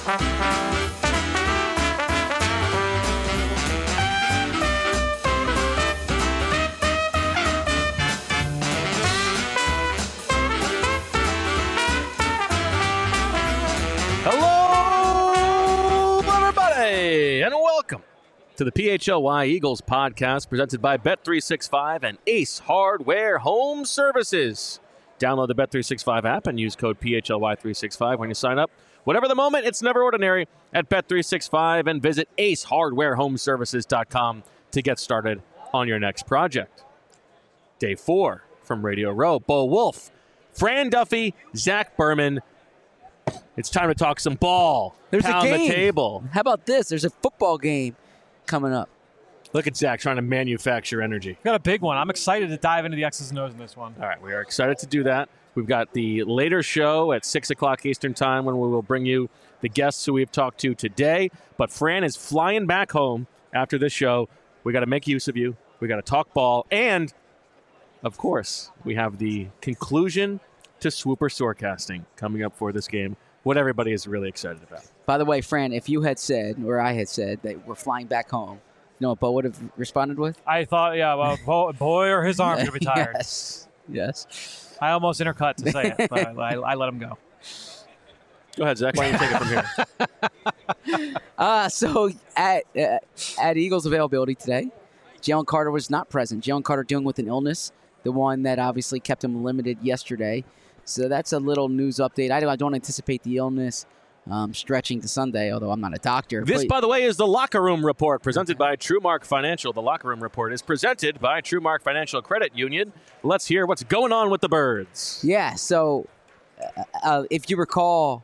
Hello, everybody, and welcome to the PHLY Eagles podcast presented by Bet365 and Ace Hardware Home Services. Download the Bet365 app and use code PHLY365 when you sign up. Whatever the moment, it's never ordinary at Bet365 and visit acehardwarehomeservices.com to get started on your next project. Day 4 from Radio Row. Bo Wolf, Fran Duffy, Zach Berman. It's time to talk some ball. There's Pound a game. the table. How about this? There's a football game coming up. Look at Zach trying to manufacture energy. Got a big one. I'm excited to dive into the X's and O's in this one. All right, we are excited to do that. We've got the later show at 6 o'clock Eastern time when we will bring you the guests who we've talked to today. But Fran is flying back home after this show. We got to make use of you. We got to talk ball. And, of course, we have the conclusion to Swooper Storecasting coming up for this game, what everybody is really excited about. By the way, Fran, if you had said, or I had said, that we're flying back home, you know what Bo would have responded with? I thought, well, boy, or his arm's going to be tired. Yes. I almost intercut to say it, but I let him go. Go ahead, Zach. Why don't you take it from here? So at Eagles availability today, Jalen Carter was not present. Jalen Carter dealing with an illness, the one that obviously kept him limited yesterday. So that's a little news update. I don't anticipate the illness stretching to Sunday, although I'm not a doctor. This, by the way, is the Locker Room Report presented by TrueMark Financial. The Locker Room Report is presented by TrueMark Financial Credit Union. Let's hear what's going on with the Birds. Yeah, so if you recall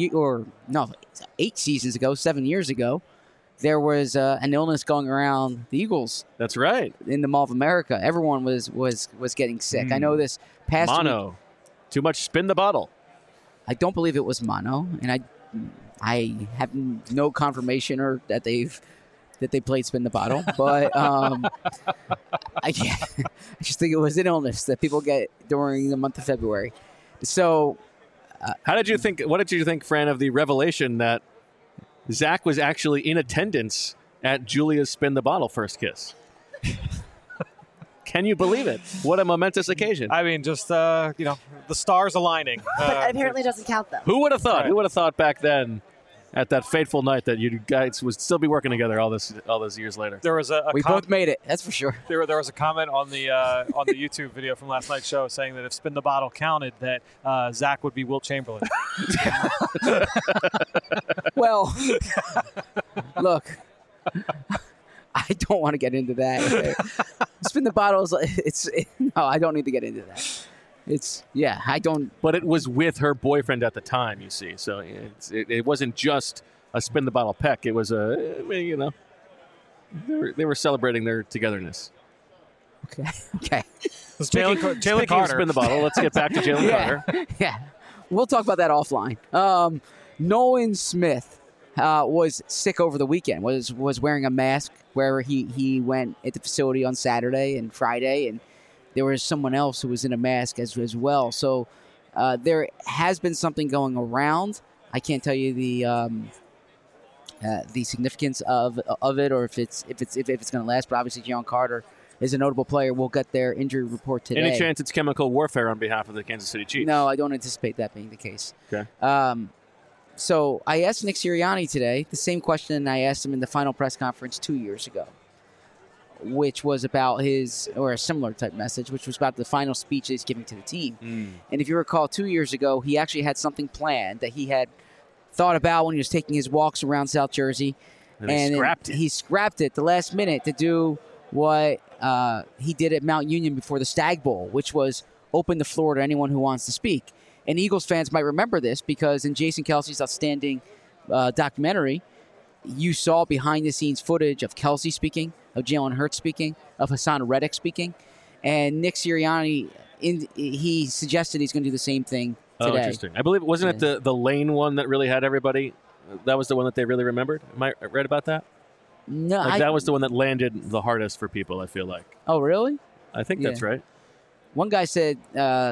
8 seasons ago, 7 years ago, there was an illness going around the Eagles. That's right. In the Mall of America. Everyone was getting sick. I know this past mono. week. Too much spin the bottle. I don't believe it was mono, and I have no confirmation or that they played spin the bottle, but I just think it was an illness that people get during the month of February. So, what did you think, Fran, of the revelation that Zach was actually in attendance at Julia's spin the bottle first kiss? Can you believe it? What a momentous occasion. I mean, just, the stars aligning. But apparently doesn't count, though. Who would have thought? Right. Who would have thought back then at that fateful night that you guys would still be working together all those years later? There was we both made it, that's for sure. There was a comment on the YouTube video from last night's show saying that if Spin the Bottle counted, that Zach would be Wilt Chamberlain. Well, look, I don't want to get into that. Spin the bottles. No, I don't need to get into that. I don't. But it was with her boyfriend at the time, you see. So it wasn't just a spin the bottle peck. It was they were celebrating their togetherness. Okay. Speaking of spin the bottle, let's get back to Jalen Carter. Yeah. We'll talk about that offline. Nolan Smith was sick over the weekend, was wearing a mask wherever he went at the facility on Saturday and Friday, and there was someone else who was in a mask as well. So there has been something going around. I can't tell you the significance of it or if it's going to last, but obviously Jalen Carter is a notable player. We'll get their injury report today. Any chance it's chemical warfare on behalf of the Kansas City Chiefs? No, I don't anticipate that being the case. Okay. So I asked Nick Sirianni today the same question I asked him in the final press conference 2 years ago, which was about a similar type message, which was about the final speech that he's giving to the team. And if you recall, 2 years ago, he actually had something planned that he had thought about when he was taking his walks around South Jersey. And he scrapped it the last minute to do what he did at Mount Union before the Stag Bowl, which was open the floor to anyone who wants to speak. And Eagles fans might remember this because in Jason Kelce's outstanding documentary, you saw behind-the-scenes footage of Kelce speaking, of Jalen Hurts speaking, of Hassan Reddick speaking. And Nick Sirianni, he suggested he's going to do the same thing today. Oh, interesting. I believe, wasn't it the Lane one that really had everybody? That was the one that they really remembered? Am I right about that? No. That was the one that landed the hardest for people, I feel like. Oh, really? I think that's right. One guy said,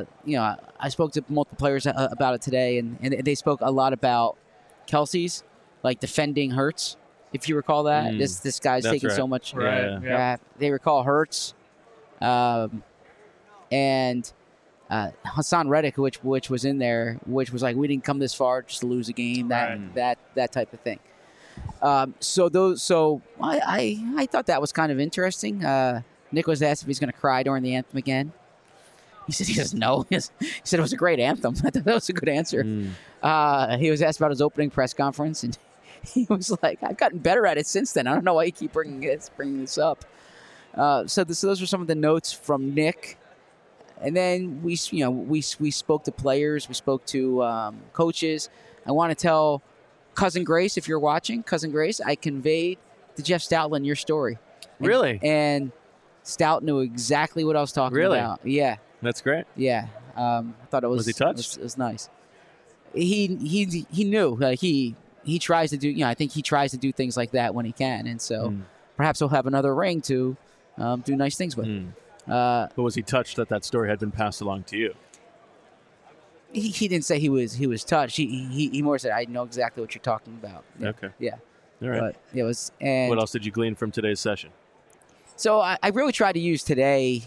I spoke to multiple players about it today, and they spoke a lot about Kelce's like defending Hurts, if you recall that. This guy's That's taking right. so much Right. crap. They recall Hurts, and Hassan Reddick, which was in there, which was like, we didn't come this far just to lose a game, that type of thing. So I thought that was kind of interesting. Nick was asked if he's going to cry during the anthem again. He said he doesn't know. He said it was a great anthem. I thought that was a good answer. He was asked about his opening press conference, and he was like, "I've gotten better at it since then. I don't know why you keep bringing this up." So those were some of the notes from Nick. And then we spoke to players, we spoke to coaches. I want to tell Cousin Grace, if you're watching, Cousin Grace, I conveyed to Jeff Stoutland your story. Really? And Stout knew exactly what I was talking about. Yeah. That's great. Yeah. I thought it was. Was he touched? It was nice. He knew. Like he tries to do. I think he tries to do things like that when he can, and so perhaps he'll have another ring to do nice things with. But was he touched that story had been passed along to you? He didn't say he was touched. He more said, "I know exactly what you're talking about." Yeah. Okay. Yeah. All right. But it was. And What else did you glean from today's session? So I really tried to use today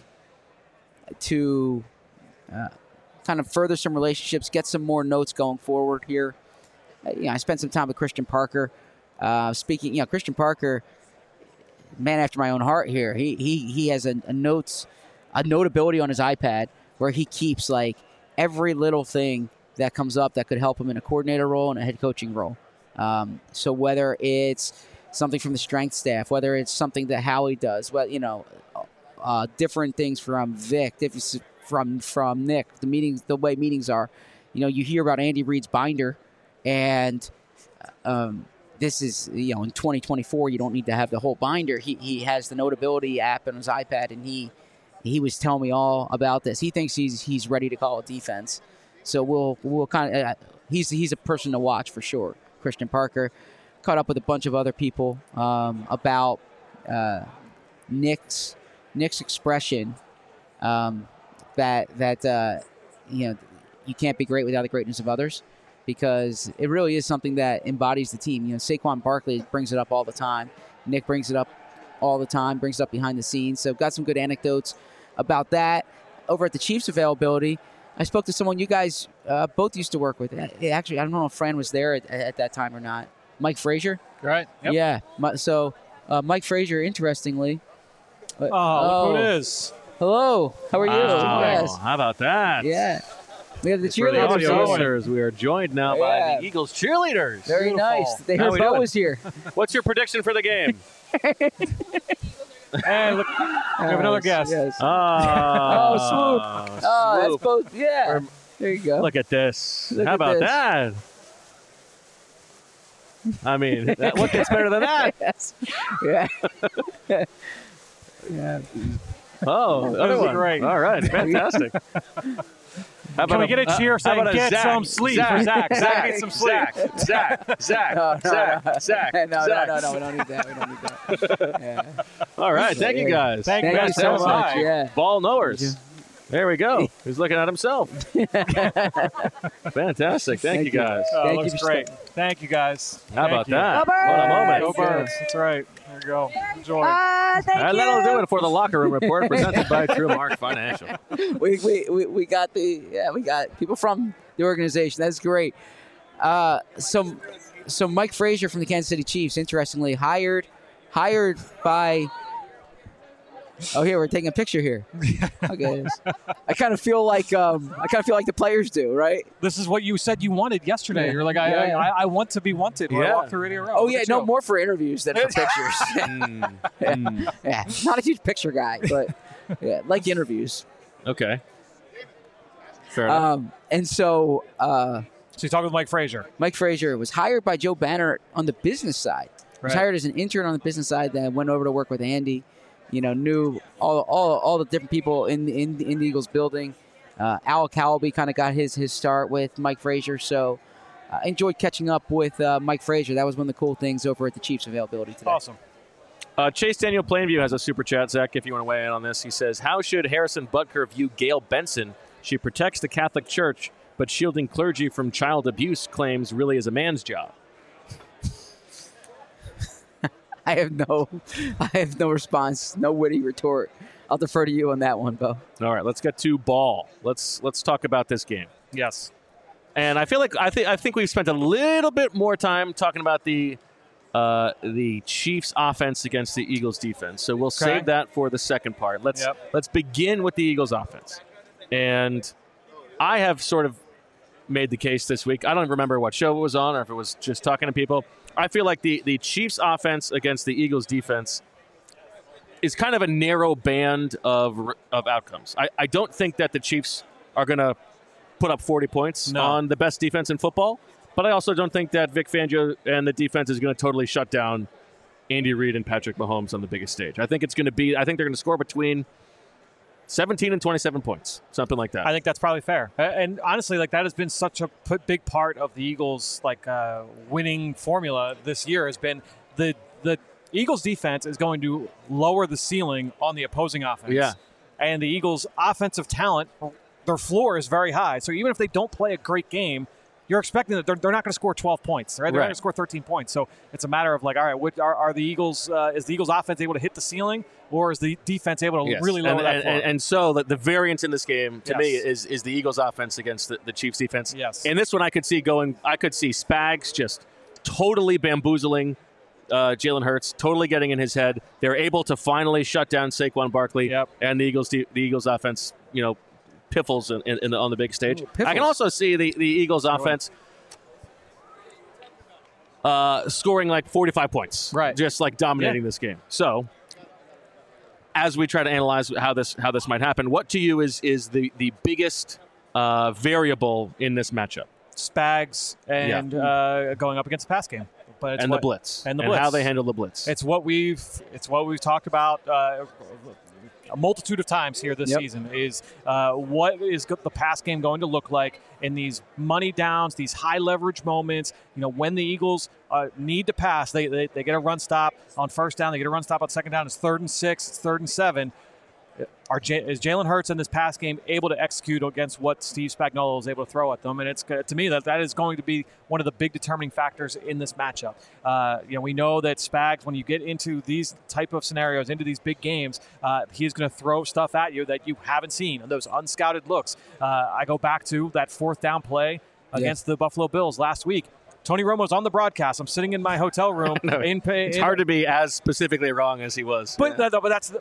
to kind of further some relationships, get some more notes going forward here. I spent some time with Christian Parker. Speaking, Christian Parker, man after my own heart here. He has a notability on his iPad where he keeps like every little thing that comes up that could help him in a coordinator role and a head coaching role. So whether it's something from the strength staff, whether it's something that Howie does, different things from Vic, from Nick, the way meetings are. You hear about Andy Reid's binder, and this is, in 2024, you don't need to have the whole binder. He has the Notability app on his iPad, and he was telling me all about this. He thinks he's ready to call a defense. So we'll kind of he's a person to watch for sure. Christian Parker caught up with a bunch of other people about Nick's expression that you can't be great without the greatness of others, because it really is something that embodies the team. Saquon Barkley brings it up all the time. Nick brings it up all the time, brings it up behind the scenes. So got some good anecdotes about that. Over at the Chiefs availability, I spoke to someone you guys both used to work with. Actually, I don't know if Fran was there at that time or not. Mike Frazier? Right. Yep. Yeah. So Mike Frazier, interestingly. Look who it is. Hello. How are you? Wow. Yes. How about that? Yeah. We have the For the cheerleaders. audio here. listeners, we are joined now by the Eagles cheerleaders. Very Beautiful. nice. They How heard we Bo doing? was here. What's your prediction for the game? And look, we have another guest. Yes. Oh, Swoop. Oh, that's both. Yeah. There you go. Look at this. Look How at about this. that? I mean, what gets better than that? Yes. Yeah. Yeah. Oh, That other was one. great. All right, fantastic. How Can we get a cheer saying, how about a "Get Zach? some sleep for Zach. Zach needs some sleep." Zach. No. Zach. No. We don't need that. We don't need that. Yeah. All right, thank you guys. Thank Thank you so so much. much. Yeah. Ball knowers. There we go. He's looking at himself. Fantastic. Thank you guys. Thank Looks you for great. staying. Thank you guys. How about Thank you. that? Go Birds! What a moment. Go Birds. That's right. There you go. Enjoy. Thank And you. that'll do it for the Locker Room Report presented by True Mark Financial. We got we got people from the organization. That's great. So Mike Frazier from the Kansas City Chiefs, interestingly hired by. Oh, here we're taking a picture here. Okay, I kind of feel like the players do, right? This is what you said you wanted yesterday. Yeah. You're like, Yeah. I want to be wanted when I Yeah. walk through Radio Row. Oh Look yeah, at no you. more for interviews than for pictures. Yeah, not a huge picture guy, but yeah, like interviews. Okay. Fair enough. And so So you talking with Mike Frazier. Mike Frazier was hired by Joe Banner on the business side. He was Right. hired as an intern on the business side, then went over to work with Andy. Knew all the different people in the Eagles building. Al Cowlby kind of got his start with Mike Frazier, so enjoyed catching up with Mike Frazier. That was one of the cool things over at the Chiefs availability today. Awesome. Chase Daniel Plainview has a super chat, Zach, if you want to weigh in on this. He says, how should Harrison Butker view Gail Benson? She protects the Catholic Church, but shielding clergy from child abuse claims really is a man's job. I have no response, no witty retort. I'll defer to you on that one, Bo. All right, let's get to ball. Let's talk about this game. Yes. And I feel like I think we've spent a little bit more time talking about the Chiefs' offense against the Eagles' defense. So we'll save that for the second part. Let's begin with the Eagles' offense. And I have sort of made the case this week. I don't remember what show it was on or if it was just talking to people. I feel like the Chiefs' offense against the Eagles' defense is kind of a narrow band of outcomes. I don't think that the Chiefs are going to put up 40 points on the best defense in football, but I also don't think that Vic Fangio and the defense is going to totally shut down Andy Reid and Patrick Mahomes on the biggest stage. I think they're going to score between 17 and 27 points, something like that. I think that's probably fair. And honestly, like that has been such a big part of the Eagles' winning formula this year has been the Eagles defense is going to lower the ceiling on the opposing offense. Yeah. And the Eagles offensive talent, their floor is very high. So even if they don't play a great game, you're expecting that they're not going to score 12 points. Right? They're not going to score 13 points. So it's a matter of all right, are the Eagles is the Eagles offense able to hit the ceiling, or is the defense able to really lower that floor? And so the variance in this game to me is the Eagles offense against the Chiefs defense. Yes. And this one I could see Spags just totally bamboozling Jalen Hurts, totally getting in his head. They're able to finally shut down Saquon Barkley, and the Eagles offense, piffles on the big stage. Ooh, I can also see the Eagles offense scoring like 45 points, just like dominating this game. So, as we try to analyze how this might happen, what to you is the biggest variable in this matchup? Spags and going up against the pass game. But the blitz. And how they handle the blitz. It's what we've talked about a multitude of times here this season is what is the pass game going to look like in these money downs, these high leverage moments. When the Eagles need to pass, they get a run stop on first down, they get a run stop on second down. It's 3rd and 6, it's 3rd and 7. Is Jalen Hurts in this pass game able to execute against what Steve Spagnuolo is able to throw at them? And it's to me that is going to be one of the big determining factors in this matchup. We know that Spags, when you get into these type of scenarios, into these big games, he is going to throw stuff at you that you haven't seen, and those unscouted looks. I go back to that 4th down play against the Buffalo Bills last week. Tony Romo's on the broadcast. I'm sitting in my hotel room. It's hard to be as specifically wrong as he was. But that's that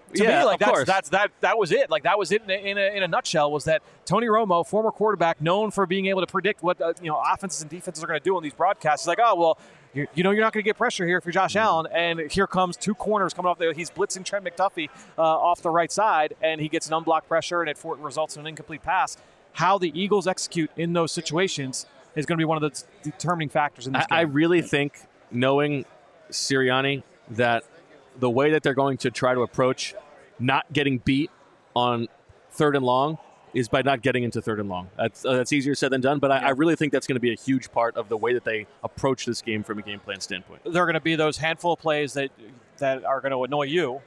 was it. Like that was it in a nutshell. Was that Tony Romo, former quarterback, known for being able to predict what offenses and defenses are going to do on these broadcasts. He's like, oh well, you're not going to get pressure here if you're Josh Allen, and here comes 2 corners coming off there. He's blitzing Trent McDuffie off the right side, and he gets an unblocked pressure, and it results in an incomplete pass. How the Eagles execute in those situations is going to be one of the determining factors in this game. I really think, knowing Sirianni, that the way that they're going to try to approach not getting beat on 3rd and long is by not getting into 3rd and long. That's easier said than done, but I really think that's going to be a huge part of the way that they approach this game from a game plan standpoint. There are going to be those handful of plays that are going to annoy you,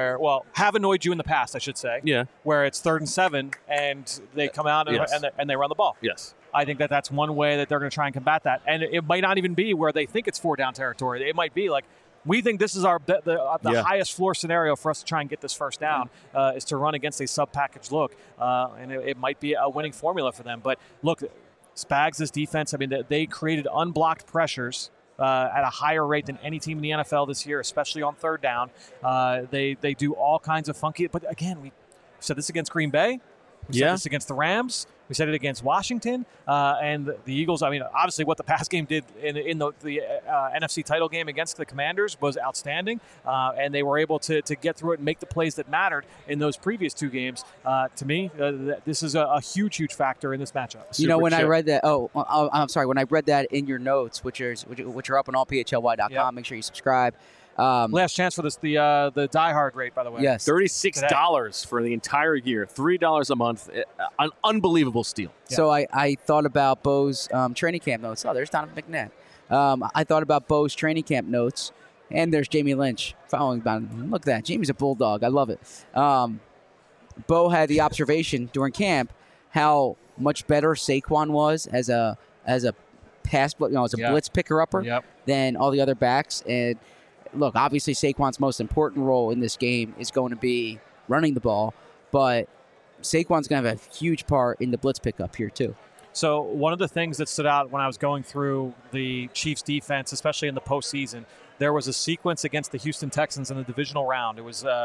have annoyed you in the past, I should say. Yeah. Where it's 3rd and 7, and they come out and they run the ball. Yes. I think that's one way that they're going to try and combat that. And it might not even be where they think it's 4-down territory. It might be like, we think this is the highest floor scenario for us to try and get this first down, is to run against a sub-package look. And it might be a winning formula for them. But look, Spags' defense, they created unblocked pressures at a higher rate than any team in the NFL this year, especially on 3rd down. They do all kinds of funky. But again, we said this against Green Bay. We said this against the Rams. We said it against Washington and the Eagles. Obviously, what the pass game did in the NFC title game against the Commanders was outstanding, and they were able to get through it and make the plays that mattered in those previous 2 games. To me, this is a huge factor in this matchup. I read that. I'm sorry. When I read that in your notes, which are up on allphly.com, make sure you subscribe. Last chance for this the diehard rate, by the way. Yes, $36 for the entire year, $3 a month, an unbelievable steal. Yeah. So I thought about Bo's training camp notes. Oh, there's Donovan McNabb. I thought about Bo's training camp notes, and there's Jamie Lynch following about him. Look at that, Jamie's a bulldog. I love it. Bo had the observation during camp how much better Saquon was as a pass, blitz picker upper than all the other backs, and look, obviously Saquon's most important role in this game is going to be running the ball, but Saquon's going to have a huge part in the blitz pickup here too. So one of the things that stood out when I was going through the Chiefs defense, especially in the postseason, there was a sequence against the Houston Texans in the divisional round. It was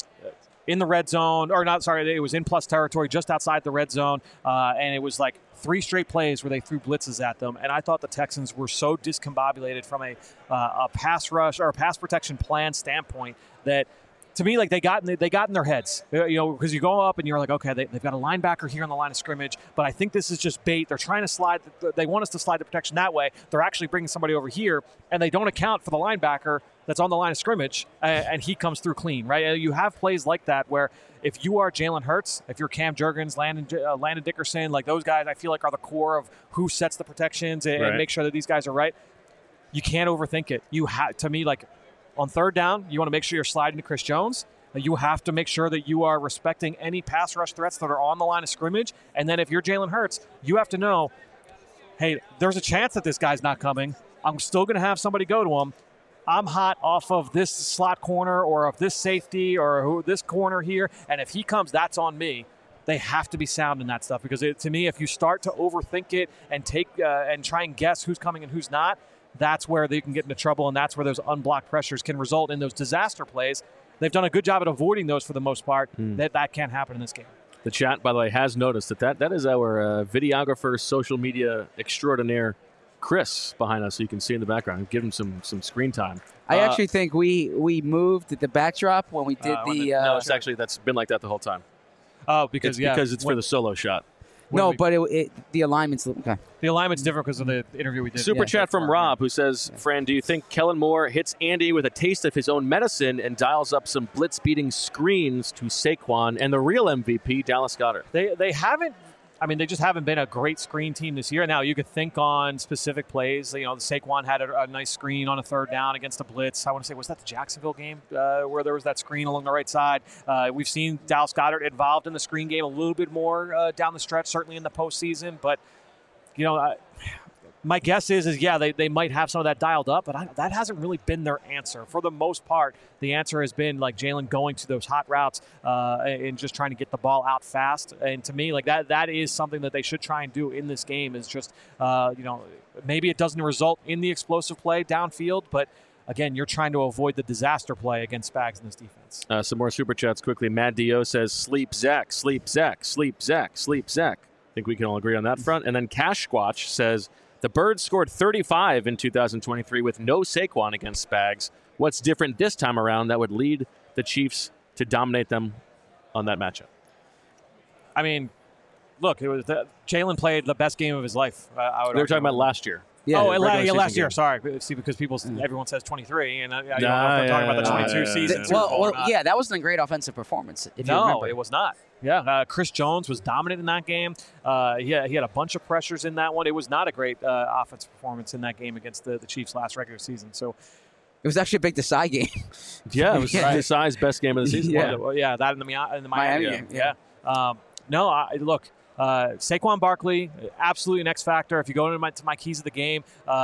in the red zone, or not, sorry, it was in plus territory just outside the red zone, and it was like 3 straight plays where they threw blitzes at them. And I thought the Texans were so discombobulated from a pass rush or a pass protection plan standpoint that, to me, like they got in their heads, because you go up and you're like, okay, they've got a linebacker here on the line of scrimmage, but I think this is just bait. They're trying to slide. They want us to slide the protection that way. They're actually bringing somebody over here, and they don't account for the linebacker that's on the line of scrimmage, and he comes through clean, right? You have plays like that where if you are Jalen Hurts, if you're Cam Jurgens, Landon Dickerson, like those guys, I feel like are the core of who sets the protections and make sure that these guys are right. You can't overthink it. You have, to me, like, on third down, you want to make sure you're sliding to Chris Jones. You have to make sure that you are respecting any pass rush threats that are on the line of scrimmage. And then if you're Jalen Hurts, you have to know, hey, there's a chance that this guy's not coming. I'm still going to have somebody go to him. I'm hot off of this slot corner or of this safety or this corner here. And if he comes, that's on me. They have to be sound in that stuff because, to me, if you start to overthink it and and try and guess who's coming and who's not, that's where they can get into trouble, and that's where those unblocked pressures can result in those disaster plays. They've done a good job at avoiding those for the most part. That can't happen in this game. The chat, by the way, has noticed that is our videographer, social media extraordinaire, Chris, behind us, so you can see in the background. Give him some screen time. I actually think we moved the backdrop when we did no, it's actually that's been like that the whole time. Oh, because it's for the solo shot. But the alignment's okay. The alignment's different because of the interview we did. Super chat from Rob, who says, Fran, do you think Kellen Moore hits Andy with a taste of his own medicine and dials up some blitz-beating screens to Saquon and the real MVP, Dallas Goedert? They haven't. I mean, they just haven't been a great screen team this year. Now, you could think on specific plays. Saquon had a nice screen on a third down against a blitz. I want to say, was that the Jacksonville game where there was that screen along the right side? We've seen Dallas Goedert involved in the screen game a little bit more down the stretch, certainly in the postseason. But, my guess is they might have some of that dialed up, but that hasn't really been their answer. For the most part, the answer has been like Jalen going to those hot routes and just trying to get the ball out fast. And to me, like that is something that they should try and do in this game is just, maybe it doesn't result in the explosive play downfield, but again, you're trying to avoid the disaster play against Spags in this defense. Some more super chats quickly. Mad Dio says, sleep Zach, sleep Zach, sleep Zach, sleep Zach. I think we can all agree on that front. And then Cash Squatch says, the Birds scored 35 in 2023 with no Saquon against Spags. What's different this time around that would lead the Chiefs to dominate them on that matchup? I mean, look, Jalen played the best game of his life. They were talking about last year. Yeah, last year. Sorry. See, because everyone says 23, and I'm talking about the 22 season. That wasn't a great offensive performance. If you remember. It was not. Yeah, Chris Jones was dominant in that game. He had a bunch of pressures in that one. It was not a great offensive performance in that game against the Chiefs last regular season. So it was actually a big Desai game. Yeah, it was Desai's best game of the season. That in the Miami game. Yeah. Look. Saquon Barkley, absolutely an X factor. If you go into my keys of the game,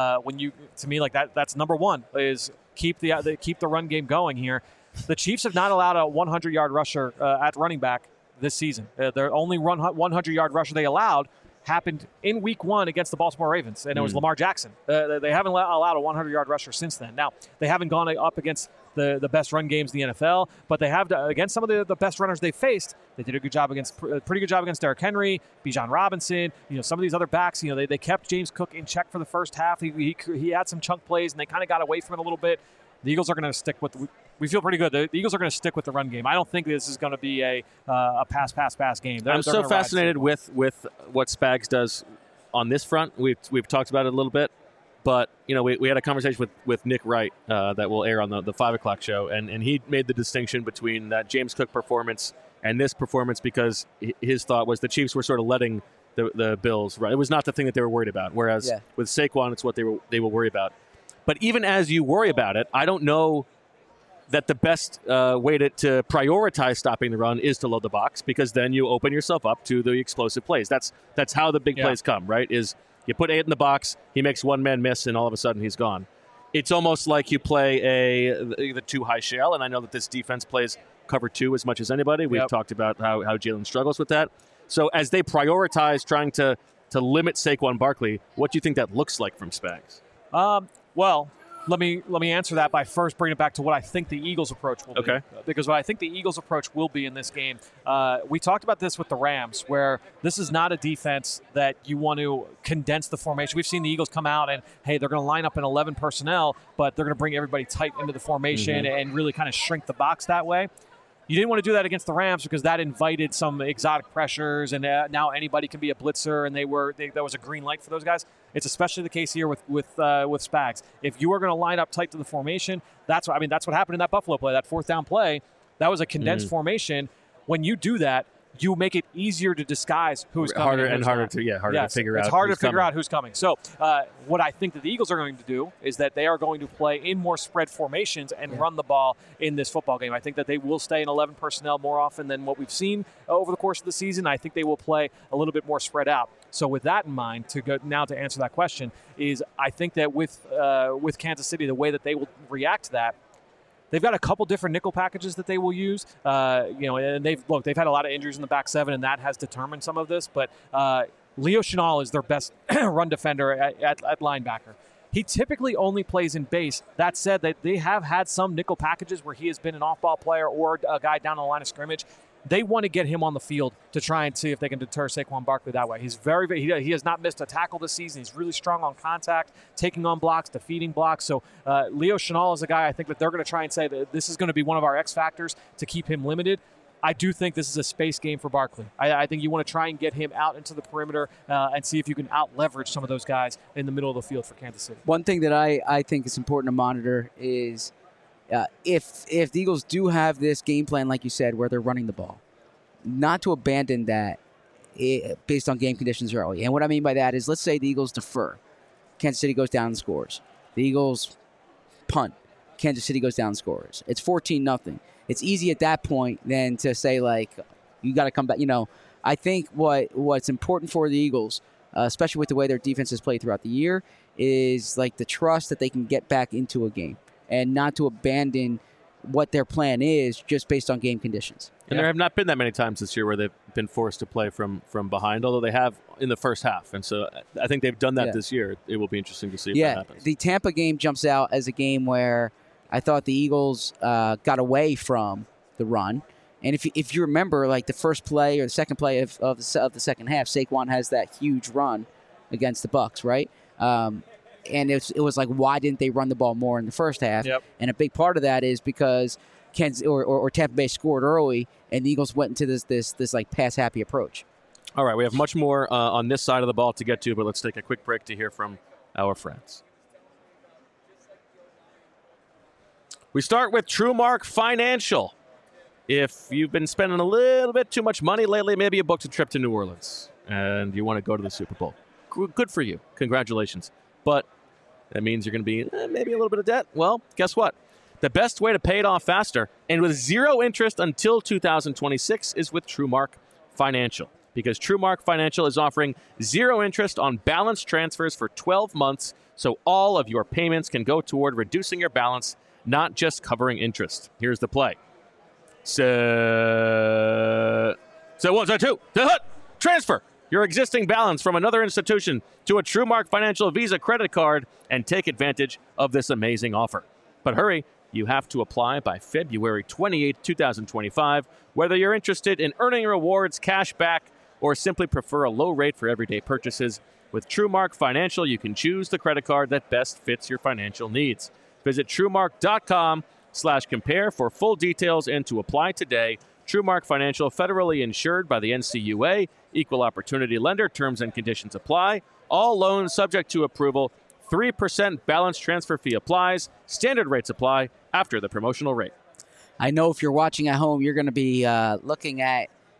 that's number one is keep the run game going here. The Chiefs have not allowed a 100-yard rusher at running back this season. Their only 100-yard rusher they allowed happened in Week 1 against the Baltimore Ravens, and it was Lamar Jackson. They haven't allowed a 100-yard rusher since then. Now, they haven't gone up against the best run games in the NFL, but they have against some of the best runners they faced. They did a pretty good job against Derrick Henry, Bijan Robinson. Some of these other backs. They kept James Cook in check for the first half. He had some chunk plays, and they kind of got away from it a little bit. The Eagles are going to stick with. We feel pretty good. The Eagles are going to stick with the run game. I don't think this is going to be a pass game. I'm so fascinated with what Spags does on this front. We've talked about it a little bit. But, we had a conversation with Nick Wright that will air on the 5 o'clock show, and he made the distinction between that James Cook performance and this performance because his thought was the Chiefs were sort of letting the Bills run. It was not the thing that they were worried about, whereas with Saquon, it's what they will worry about. But even as you worry about it, I don't know that the best way to prioritize stopping the run is to load the box because then you open yourself up to the explosive plays. That's how the big plays come, right, is – you put 8 in the box, he makes one man miss, and all of a sudden he's gone. It's almost like you play the two high shell, and I know that this defense plays cover 2 as much as anybody. We've talked about how Jalen struggles with that. So as they prioritize trying to limit Saquon Barkley, what do you think that looks like from Spags? Well, let me answer that by first bringing it back to what I think the Eagles' approach will be. Okay. Because what I think the Eagles' approach will be in this game, we talked about this with the Rams, where this is not a defense that you want to condense the formation. We've seen the Eagles come out and, hey, they're going to line up in 11 personnel, but they're going to bring everybody tight into the formation and really kind of shrink the box that way. You didn't want to do that against the Rams because that invited some exotic pressures, and now anybody can be a blitzer, and that was a green light for those guys. It's especially the case here with Spags. If you are going to line up tight to the formation, that's what happened in that Buffalo play, that 4th down play. That was a condensed formation. When you do that, you make it easier to disguise who's coming. Harder to figure out. It's harder to figure out who's coming. So what I think that the Eagles are going to do is that they are going to play in more spread formations and run the ball in this football game. I think that they will stay in 11 personnel more often than what we've seen over the course of the season. I think they will play a little bit more spread out. So with that in mind, to answer that question, is I think that with Kansas City, the way that they will react to that, they've got a couple different nickel packages that they will use, and they've had a lot of injuries in the back 7, and that has determined some of this. But Leo Chenal is their best run defender at linebacker. He typically only plays in base. That said, they have had some nickel packages where he has been an off-ball player or a guy down on the line of scrimmage. They want to get him on the field to try and see if they can deter Saquon Barkley that way. He's he has not missed a tackle this season. He's really strong on contact, taking on blocks, defeating blocks. So Leo Chenal is a guy I think that they're going to try and say that this is going to be one of our X factors to keep him limited. I do think this is a space game for Barkley. I think you want to try and get him out into the perimeter and see if you can out-leverage some of those guys in the middle of the field for Kansas City. One thing that I think is important to monitor is if the Eagles do have this game plan, like you said, where they're running the ball, not to abandon that based on game conditions early. And what I mean by that is, let's say the Eagles defer. Kansas City goes down and scores. The Eagles punt. Kansas City goes down and scores. It's 14-0. It's easy at that point then to say, like, you got to come back. I think what's important for the Eagles, especially with the way their defense has played throughout the year, is like the trust that they can get back into a game and not to abandon what their plan is just based on game conditions. And there have not been that many times this year where they've been forced to play from behind, although they have in the first half. And so I think they've done that this year. It will be interesting to see if that happens. The Tampa game jumps out as a game where I thought the Eagles got away from the run. And if you remember, like the first play or the second play of the second half, Saquon has that huge run against the Bucs, right? And it was like, why didn't they run the ball more in the first half? Yep. And a big part of that is because Kansas or Tampa Bay scored early, and the Eagles went into this like pass happy approach. All right, we have much more on this side of the ball to get to, but let's take a quick break to hear from our friends. We start with TrueMark Financial. If you've been spending a little bit too much money lately, maybe you booked a trip to New Orleans and you want to go to the Super Bowl. Good for you. Congratulations. But that means you're going to be maybe a little bit of debt. Well, guess what? The best way to pay it off faster and with zero interest until 2026 is with TrueMark Financial. Because TrueMark Financial is offering zero interest on balance transfers for 12 months, so all of your payments can go toward reducing your balance, not just covering interest. Here's the play. So 1, 2, transfer your existing balance from another institution to a TrueMark Financial Visa credit card and take advantage of this amazing offer. But hurry, you have to apply by February 28, 2025, whether you're interested in earning rewards, cash back, or simply prefer a low rate for everyday purchases. With TrueMark Financial, you can choose the credit card that best fits your financial needs. Visit TrueMark.com/compare for full details and to apply today. TrueMark Financial, federally insured by the NCUA, equal opportunity lender, terms and conditions apply. All loans subject to approval. 3% balance transfer fee applies. Standard rates apply after the promotional rate. I know if you're watching at home, you're going to be looking at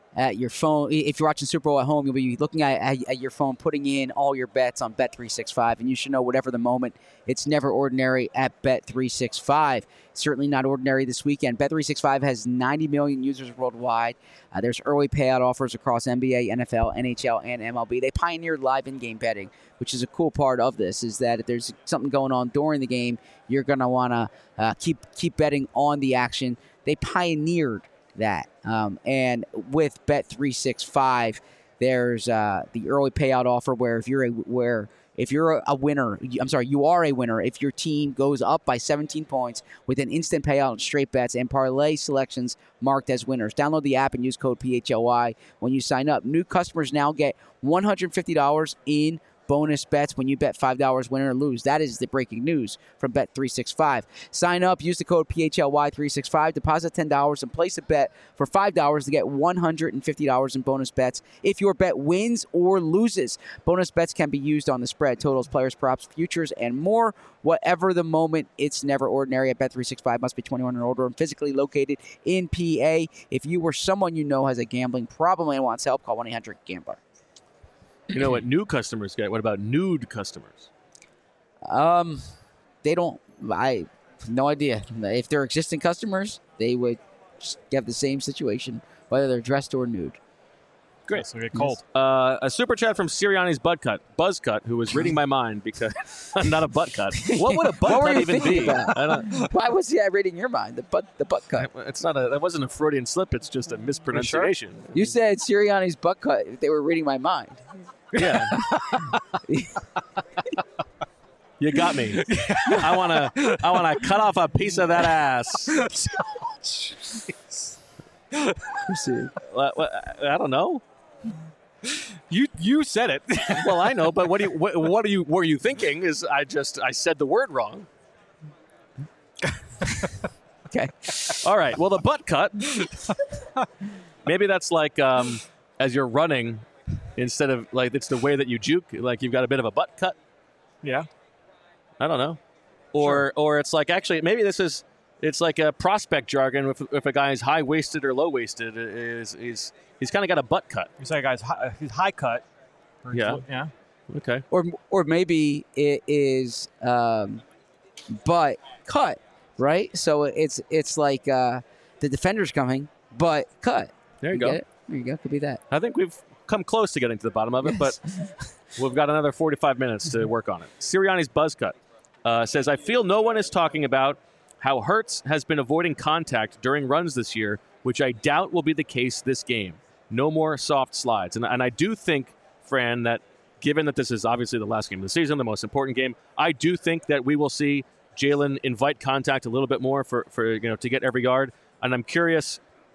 at your phone. If you're watching Super Bowl at home, you'll be looking at your phone, putting in all your bets on Bet365, and you should know whatever the moment, it's never ordinary at Bet365. Certainly not ordinary this weekend. Bet365 has 90 million users worldwide. There's early payout offers across NBA, NFL, NHL, and MLB. They pioneered live in-game betting, which is a cool part of this, is that if there's something going on during the game, you're going to want to keep betting on the action. They pioneered that. And with Bet365, there's the early payout offer where if you're a winner, you are a winner if your team goes up by 17 points with an instant payout on straight bets and parlay selections marked as winners. Download the app and use code PHLY when you sign up. New customers now get $150 in bonus bets when you bet $5 win or lose. That is the breaking news from Bet365. Sign up, use the code PHLY365, deposit $10 and place a bet for $5 to get $150 in bonus bets if your bet wins or loses. Bonus bets can be used on the spread, totals, players, props, futures, and more. Whatever the moment, it's never ordinary at Bet365. Must be 21 or older and physically located in PA. If you or someone you know has a gambling problem and wants help, call 1-800-GAMBLER. You know what new customers get? What about nude customers? They don't. I have no idea. If they're existing customers, they would have the same situation, whether they're dressed or nude. Great. So we get cold. A super chat from Sirianni's Buzzcut, who was reading my mind because I'm not a butt cut. What would a butt cut even be? Why was he reading your mind? The butt cut. It's not that wasn't a Freudian slip. It's just a mispronunciation. Sure? You said Sirianni's butt cut. If they were reading my mind. Yeah. You got me. I wanna cut off a piece of that ass. I don't know. You said it. Well, I know, but what were you thinking? Is I said the word wrong. Okay. All right. Well, the butt cut. Maybe that's like as you're running. Instead of, like, it's the way that you juke, like you've got a bit of a butt cut. Yeah. I don't know. Or it's like, actually, maybe it's like a prospect jargon. If a guy is high-waisted or low-waisted, he's kind of got a butt cut. You say a guy's he's high cut. Yeah. Yeah. Okay. Or maybe it is butt cut, right? So it's like the defender's coming, butt cut. There you go. Get it? There you go. Could be that. I think we've come close to getting to the bottom of it, but we've got another 45 minutes to work on it. Sirianni's Buzzcut says, I feel no one is talking about how Hurts has been avoiding contact during runs this year, which I doubt will be the case this game. No more soft slides. And I do think, Fran, that given that this is obviously the last game of the season, the most important game, I do think that we will see Jalen invite contact a little bit more for to get every yard. And I'm curious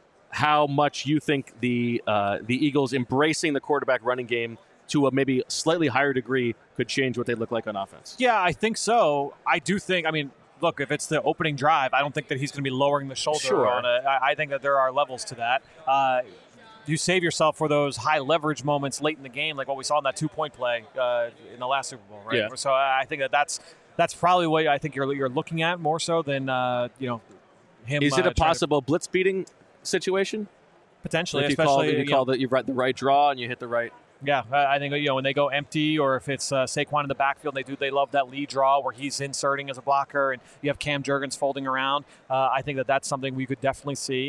how much you think the Eagles embracing the quarterback running game to a maybe slightly higher degree could change what they look like on offense. Yeah, I think so. I do think, look, if it's the opening drive, I don't think that he's going to be lowering the shoulder on it. I think that there are levels to that. You save yourself for those high leverage moments late in the game, like what we saw in that 2-point play in the last Super Bowl, right? Yeah. So I think that's probably what I think you're looking at more so than him. Is it a possible blitz beating situation? Potentially, if especially you write the right draw and you hit the right. Yeah, I think when they go empty, or if it's Saquon in the backfield, they love that lead draw where he's inserting as a blocker, and you have Cam Jurgens folding around. I think that's something we could definitely see.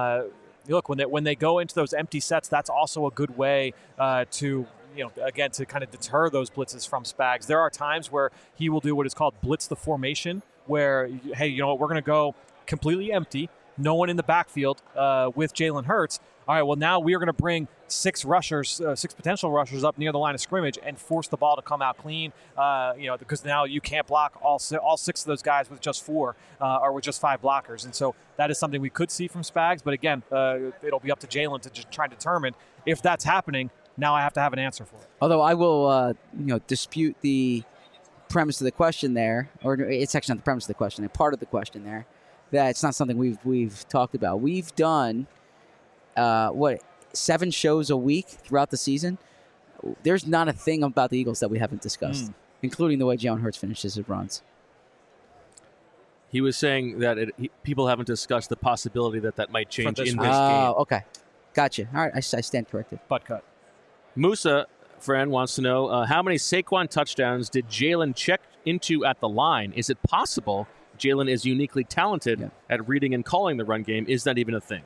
Look, when they go into those empty sets, that's also a good way to kind of deter those blitzes from Spags. There are times where he will do what is called blitz the formation, where hey, we're going to go completely empty. No one in the backfield with Jalen Hurts. All right, well, now we are going to bring six potential rushers up near the line of scrimmage and force the ball to come out clean, because now you can't block all six of those guys with just 4 or with just 5 blockers. And so that is something we could see from Spags. But again, it'll be up to Jalen to just try and determine if that's happening. Now I have to have an answer for it. Although I will, dispute the premise of the question there, or it's actually not the premise of the question, part of the question there. That it's not something we've talked about. We've done 7 shows a week throughout the season. There's not a thing about the Eagles that we haven't discussed, including the way Jalen Hurts finishes his runs. He was saying that people haven't discussed the possibility that might change in this game. Oh, okay. Gotcha. All right, I stand corrected. Butt cut. Musa, friend, wants to know how many Saquon touchdowns did Jalen check into at the line? Is it possible Jalen is uniquely talented at reading and calling the run game? Is that even a thing?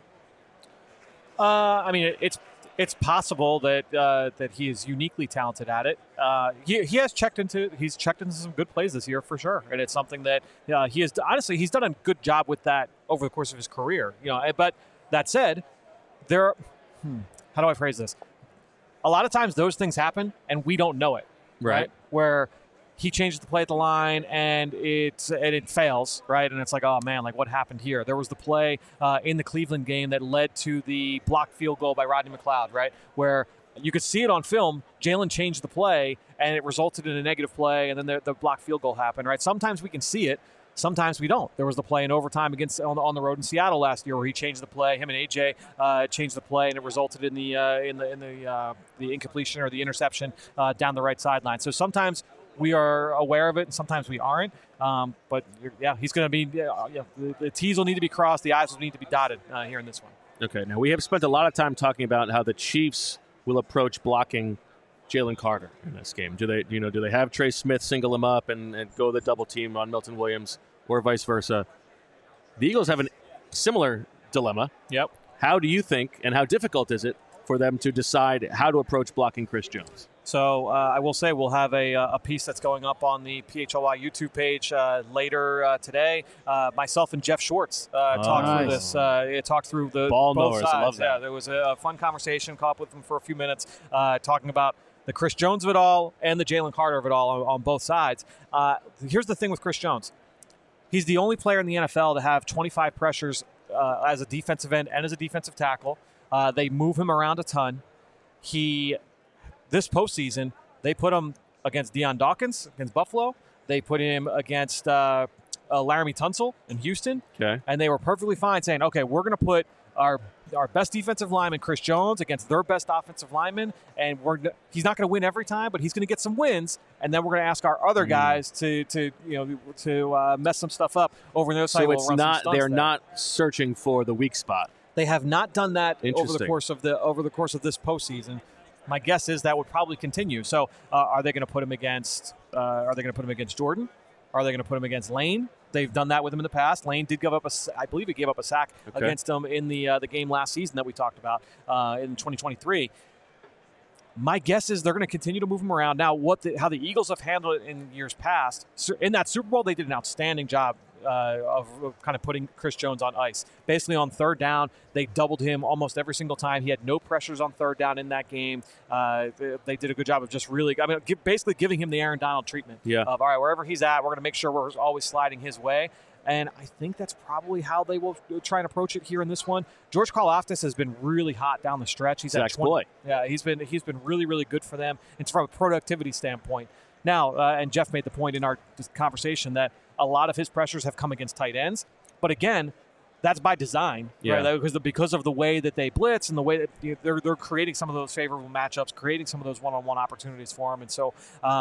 I mean, it's possible that that he is uniquely talented at it. He has checked into some good plays this year for sure, and it's something that he has honestly he's done a good job with that over the course of his career. But that said, how do I phrase this? A lot of times those things happen and we don't know it, right? Where he changes the play at the line and it fails, right? And it's like, oh man, like what happened here? There was the play in the Cleveland game that led to the blocked field goal by Rodney McLeod, right? Where you could see it on film. Jalen changed the play and it resulted in a negative play, and then the blocked field goal happened, right? Sometimes we can see it. Sometimes we don't. There was the play in overtime on the road in Seattle last year where he changed the play. Him and AJ changed the play, and it resulted in the incompletion or the interception down the right sideline. So sometimes we are aware of it, and sometimes we aren't. But he's going to be. The T's will need to be crossed. The I's will need to be dotted here in this one. Okay. Now we have spent a lot of time talking about how the Chiefs will approach blocking Jalen Carter in this game. Do they have Trey Smith single him up and go the double team on Milton Williams, or vice versa? The Eagles have a similar dilemma. Yep. How do you think, and how difficult is it for them to decide how to approach blocking Chris Jones? So I will say we'll have a piece that's going up on the PHLY YouTube page later today. Myself and Jeff Schwartz talked through this. Talked through the ball both knowers. sides. I love that. Yeah, there was a fun conversation. Caught up with them for a few minutes, talking about the Chris Jones of it all and the Jalen Carter of it all on both sides. Here's the thing with Chris Jones. He's the only player in the NFL to have 25 pressures as a defensive end and as a defensive tackle. They move him around a ton. This postseason, they put him against Deion Dawkins against Buffalo. They put him against Laramie Tunsil in Houston. Okay. And they were perfectly fine saying, okay, we're going to put our best defensive lineman, Chris Jones, against their best offensive lineman, and he's not going to win every time, but he's going to get some wins, and then we're going to ask our other guys to mess some stuff up over on the other side. So it's not they're not searching for the weak spot. They have not done that over the course of this postseason. My guess is that would probably continue. So, are they going to put him against? Are they going to put him against Jordan? Are they going to put him against Lane? They've done that with him in the past. Lane did give up I believe he gave up a sack against him in the game last season that we talked about in 2023. My guess is they're going to continue to move him around. Now, how the Eagles have handled it in years past, in that Super Bowl, they did an outstanding job of kind of putting Chris Jones on ice. Basically on third down, they doubled him almost every single time. He had no pressures on third down in that game. They did a good job of just basically giving him the Aaron Donald treatment of, all right, wherever he's at, we're going to make sure we're always sliding his way. And I think that's probably how they will try and approach it here in this one. George Karlaftis has been really hot down the stretch. He's at 20. Yeah, he's been really, really good for them. It's from a productivity standpoint. Now, and Jeff made the point in our conversation that a lot of his pressures have come against tight ends. But again, that's by design, right? Because of the way that they blitz and the way that they're creating some of those favorable matchups, creating some of those one-on-one opportunities for him. And so,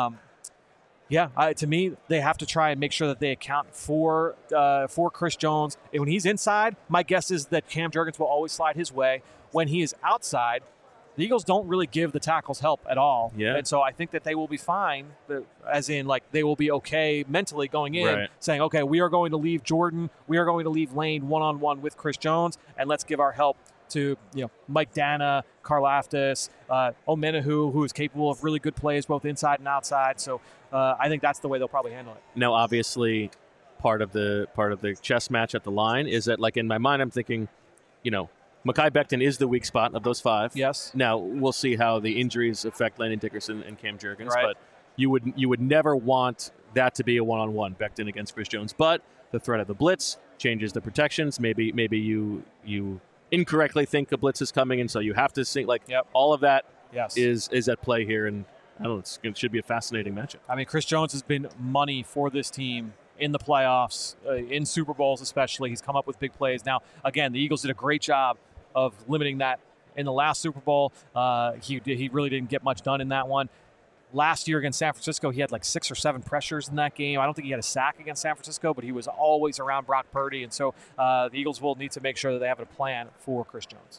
to me, they have to try and make sure that they account for Chris Jones. And when he's inside, my guess is that Cam Jurgens will always slide his way. When he is outside, the Eagles don't really give the tackles help at all. Yeah. And so I think that they will be fine, as in, like, they will be okay mentally going in, saying, okay, we are going to leave Jordan, we are going to leave Lane one-on-one with Chris Jones, and let's give our help to Mike Dana, Karlaftis, Omenahu, who is capable of really good plays both inside and outside. So I think that's the way they'll probably handle it. Now, obviously, part of the chess match at the line is that, like, in my mind, I'm thinking, Mekhi Becton is the weak spot of those five. Yes. Now we'll see how the injuries affect Landon Dickerson and Cam Jurgens, but you would never want that to be a one-on-one, Becton against Chris Jones. But the threat of the blitz changes the protections. Maybe you incorrectly think a blitz is coming, and so you have to think all of that is at play here. And I don't know, it should be a fascinating matchup. I mean, Chris Jones has been money for this team in the playoffs, in Super Bowls especially. He's come up with big plays. Now, again, the Eagles did a great job of limiting that in the last Super Bowl. He really didn't get much done in that one. Last year against San Francisco, he had like 6 or 7 pressures in that game. I don't think he had a sack against San Francisco, but he was always around Brock Purdy. And so the Eagles will need to make sure that they have a plan for Chris Jones.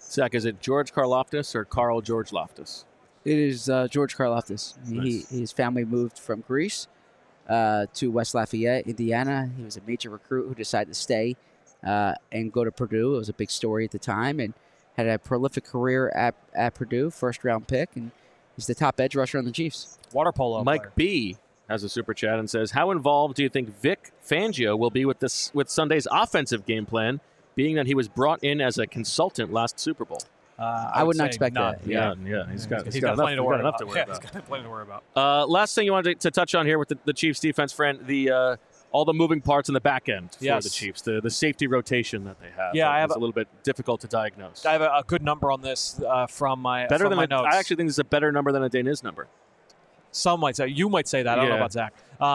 Zach, is it George Karlaftis or Carl George Loftus? It is George Karlaftis. Nice. His family moved from Greece to West Lafayette, Indiana. He was a major recruit who decided to stay and go to Purdue. It was a big story at the time, and had a prolific career at Purdue, first-round pick, and he's the top edge rusher on the Chiefs. Water polo Mike player. B has a super chat and says, how involved do you think Vic Fangio will be with Sunday's offensive game plan, being that he was brought in as a consultant last Super Bowl? I would not expect that. Yeah. He's got plenty to worry about. about. He's got plenty to worry about. Last thing you wanted to touch on here with the Chiefs defense, Fran, all the moving parts in the back end for the Chiefs, the safety rotation that they have. Yeah, it's a little bit difficult to diagnose. I have a good number on this from my my notes. I actually think this is a better number than a Daniz number. Some might say. You might say that. I don't know about Zach.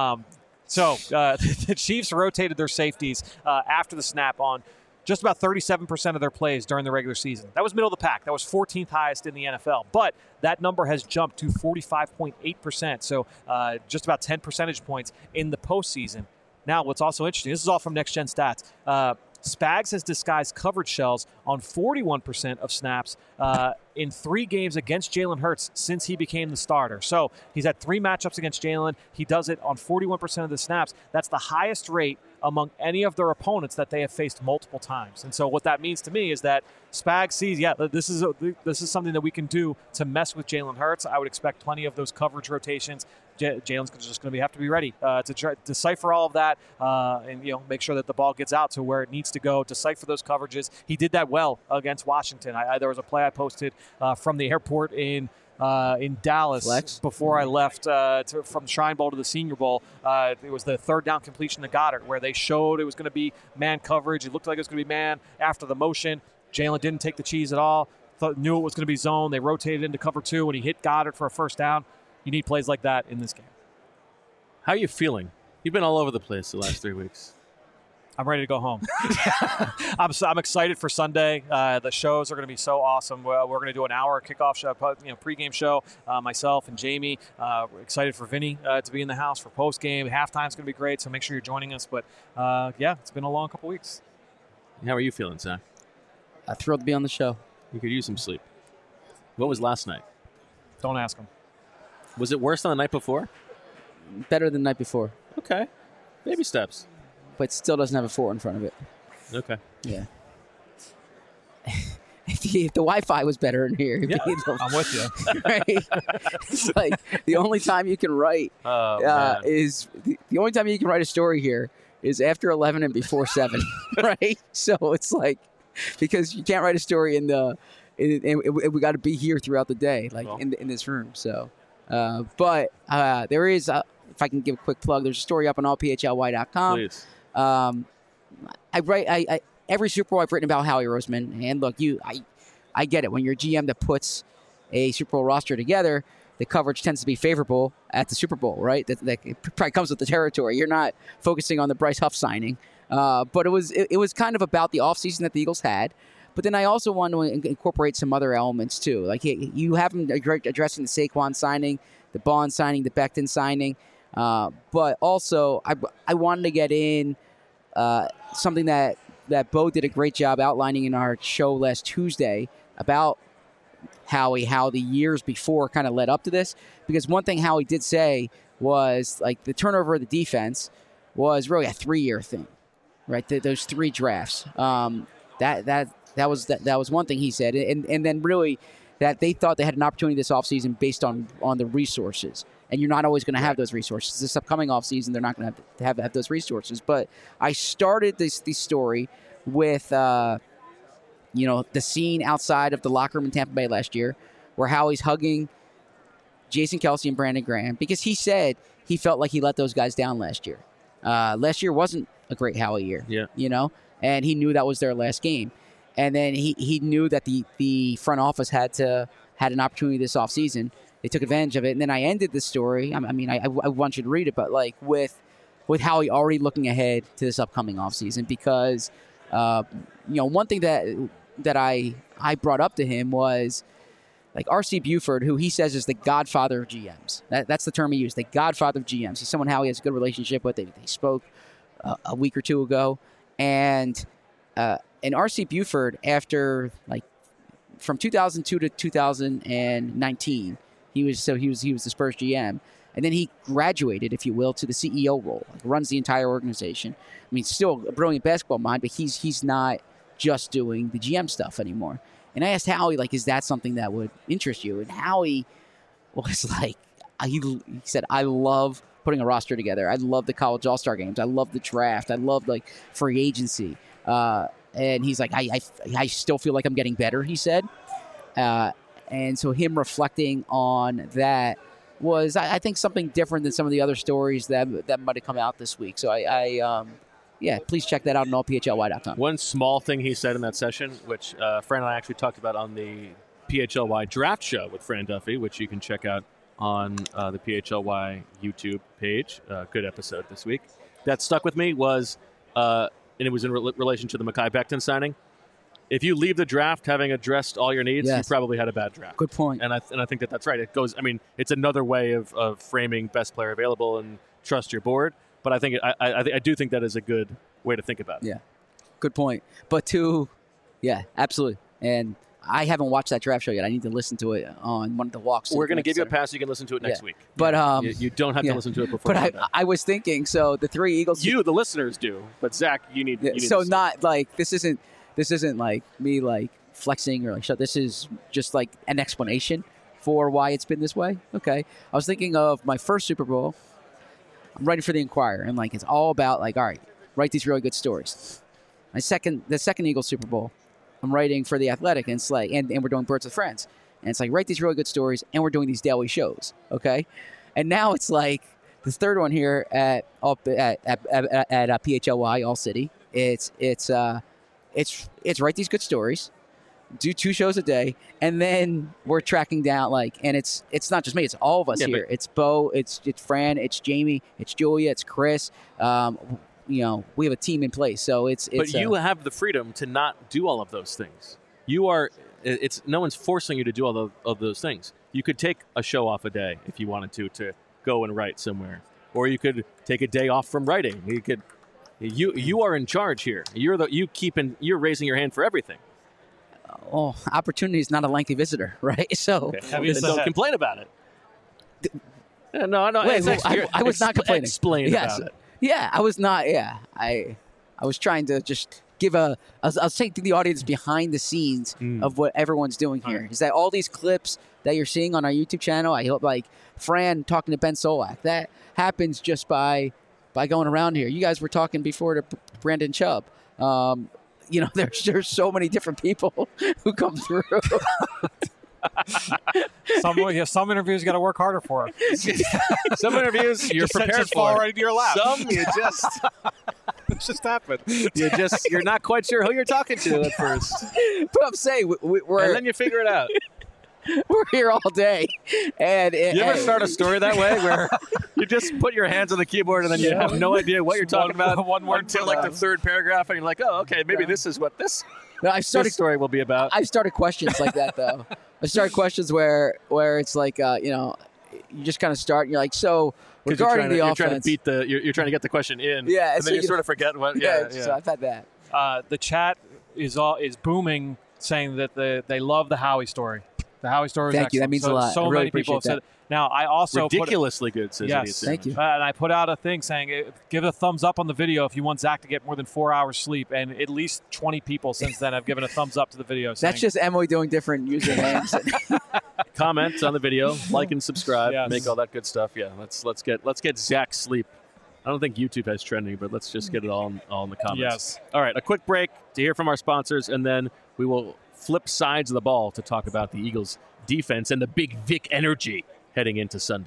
The Chiefs rotated their safeties after the snap on just about 37% of their plays during the regular season. That was middle of the pack. That was 14th highest in the NFL. But that number has jumped to 45.8%, so just about 10 percentage points in the postseason. Now, what's also interesting, this is all from Next Gen Stats, Spags has disguised coverage shells on 41% of snaps in 3 games against Jalen Hurts since he became the starter. So he's had 3 matchups against Jalen. He does it on 41% of the snaps. That's the highest rate among any of their opponents that they have faced multiple times. And so what that means to me is that Spags sees, this is something that we can do to mess with Jalen Hurts. I would expect plenty of those coverage rotations. Jalen's just going to have to be ready to try to decipher all of that and make sure that the ball gets out to where it needs to go, decipher those coverages. He did that well against Washington. There was a play I posted from the airport in Dallas before I left from the Shrine Bowl to the Senior Bowl. It was the 3rd down completion to Goddard where they showed it was going to be man coverage. It looked like it was going to be man after the motion. Jalen didn't take the cheese at all. Knew it was going to be zone. They rotated into cover 2 and he hit Goddard for a first down. You need plays like that in this game. How are you feeling? You've been all over the place the last 3 weeks. I'm ready to go home. I'm excited for Sunday. The shows are going to be so awesome. We're going to do an hour kickoff show, pregame show. Myself and Jamie. We're excited for Vinny to be in the house for postgame. Halftime's going to be great, so make sure you're joining us. But it's been a long couple weeks. How are you feeling, Zach? I'm thrilled to be on the show. You could use some sleep. What was last night? Don't ask him. Was it worse than the night before? Better than the night before. Okay. Baby steps. But still doesn't have a 4 in front of it. Okay. Yeah. If the Wi-Fi was better in here, I'm with you. Right? It's like the only time you can write is the only time you can write a story here is after 11 and before 7, right? So it's like because you can't write a story we got to be here throughout the day, in this room. So. But there is, if I can give a quick plug, there's a story up on allphly.com. Please. I write every Super Bowl I've written about Howie Roseman, and look, I get it. When you're a GM that puts a Super Bowl roster together, the coverage tends to be favorable at the Super Bowl, right? That probably comes with the territory. You're not focusing on the Bryce Huff signing, but it was kind of about the offseason that the Eagles had. But then I also want to incorporate some other elements, too. Like, you have them addressing the Saquon signing, the Bond signing, the Becton signing. But also, I wanted to get in something that Bo did a great job outlining in our show last Tuesday about Howie, how the years before kind of led up to this. Because one thing Howie did say was, like, the turnover of the defense was really a 3-year thing, right? Those 3 drafts. That was one thing he said, and then really that they thought they had an opportunity this offseason based on the resources, and you're not always going to have those resources. This upcoming offseason, they're not going to have those resources. But I started this story with the scene outside of the locker room in Tampa Bay last year, where Howie's hugging Jason Kelce and Brandon Graham because he said he felt like he let those guys down last year. Last year wasn't a great Howie year, and he knew that was their last game. And then he knew that the front office had an opportunity this offseason. They took advantage of it. And then I ended the story. I want you to read it, but like with Howie already looking ahead to this upcoming offseason because, one thing that I brought up to him was like R.C. Buford, who he says is the godfather of GMs. That's the term he used, the godfather of GMs. He's someone Howie has a good relationship with. They spoke a week or two ago. And R.C. Buford, after like from 2002 to 2019, he was the Spurs GM. And then he graduated, if you will, to the CEO role. Like, runs the entire organization. I mean, still a brilliant basketball mind, but he's not just doing the GM stuff anymore. And I asked Howie, like, is that something that would interest you? And Howie was like, he said, I love putting a roster together. I love the college all-star games. I love the draft. I love, like, free agency. And he's like, I still feel like I'm getting better, he said. And so him reflecting on that was, I think, something different than some of the other stories that might have come out this week. So please check that out on allphly.com. One small thing he said in that session, which Fran and I actually talked about on the PHLY draft show with Fran Duffy, which you can check out on the PHLY YouTube page. Good episode this week. That stuck with me was, and it was in relation to the Mekhi Becton signing. If you leave the draft having addressed all your needs, yes, you probably had a bad draft. Good point. And I think that's right. It goes. I mean, it's another way of framing best player available and trust your board. But I think I do think that is a good way to think about it. Yeah, good point. But absolutely. And I haven't watched that draft show yet. I need to listen to it on one of the walks. We're going to give you a pass. You can listen to it next week. But you don't have to listen to it before. But I was thinking. So the three Eagles. You, the listeners, do. But Zach, you need. So not like this isn't like me like flexing or like shut. This is just like an explanation for why it's been this way. Okay. I was thinking of my first Super Bowl. I'm writing for the Inquirer, and like it's all about like, all right, write these really good stories. The second Eagles Super Bowl, I'm writing for the Athletic, and it's like, and we're doing Birds with Friends, and it's like, write these really good stories, and we're doing these daily shows. Okay. And now it's like the third one here at PHLY All City. It's write these good stories, do 2 shows a day, and then we're tracking down and it's not just me, it's all of us here. It's Bo, it's Fran, it's Jamie, it's Julia, it's Chris. We have a team in place, so it's. But you have the freedom to not do all of those things. No one's forcing you to do all of those things. You could take a show off a day if you wanted to go and write somewhere, or you could take a day off from writing. You could. You are in charge here. You're raising your hand for everything. Oh, opportunity is not a lengthy visitor, right? So don't complain about it. No. Wait, I was not complaining. Explain about it. Yeah, I was not. Yeah, I was trying to just give I was taking the audience behind the scenes of what everyone's doing here. Is that all these clips that you're seeing on our YouTube channel? I hope like Fran talking to Ben Solak. That happens just by going around here. You guys were talking before to Brandon Chubb. There's so many different people who come through. Some interviews you got to work harder for. Some interviews you're prepared for. Fall right into your lap. Some you just it just happened. You're not quite sure who you're talking to at first. But I'm saying we're and then you figure it out. We're here all day. And you ever start a story that way where you just put your hands on the keyboard and then you have no idea what you're talking about one word until like the third paragraph and you're like, oh, okay, maybe this is what this story will be about. I've started questions like that, though. I started questions where it's like, you just kind of start and you're like, so regarding the offense. You're trying to get the question in. Yeah. And then you sort of forget what. Yeah. So I've had that. The chat is booming saying that they love the Howie story. The Howie story is Thank excellent. you. That means a lot. So really many people have that. said it. Now, I also ridiculously good, says yes, thank you. And I put out a thing saying, give a thumbs up on the video if you want Zach to get more than 4 hours sleep. And at least 20 people since then have given a thumbs up to the video. That's just Emily doing different usernames. Comment on the video, like and subscribe, make all that good stuff. Yeah, let's get Zach sleep. I don't think YouTube has trending, but let's just get it all in the comments. Yes. All right, a quick break to hear from our sponsors, and then we will flip sides of the ball to talk about the Eagles' defense and the Big Vic energy heading into Sunday.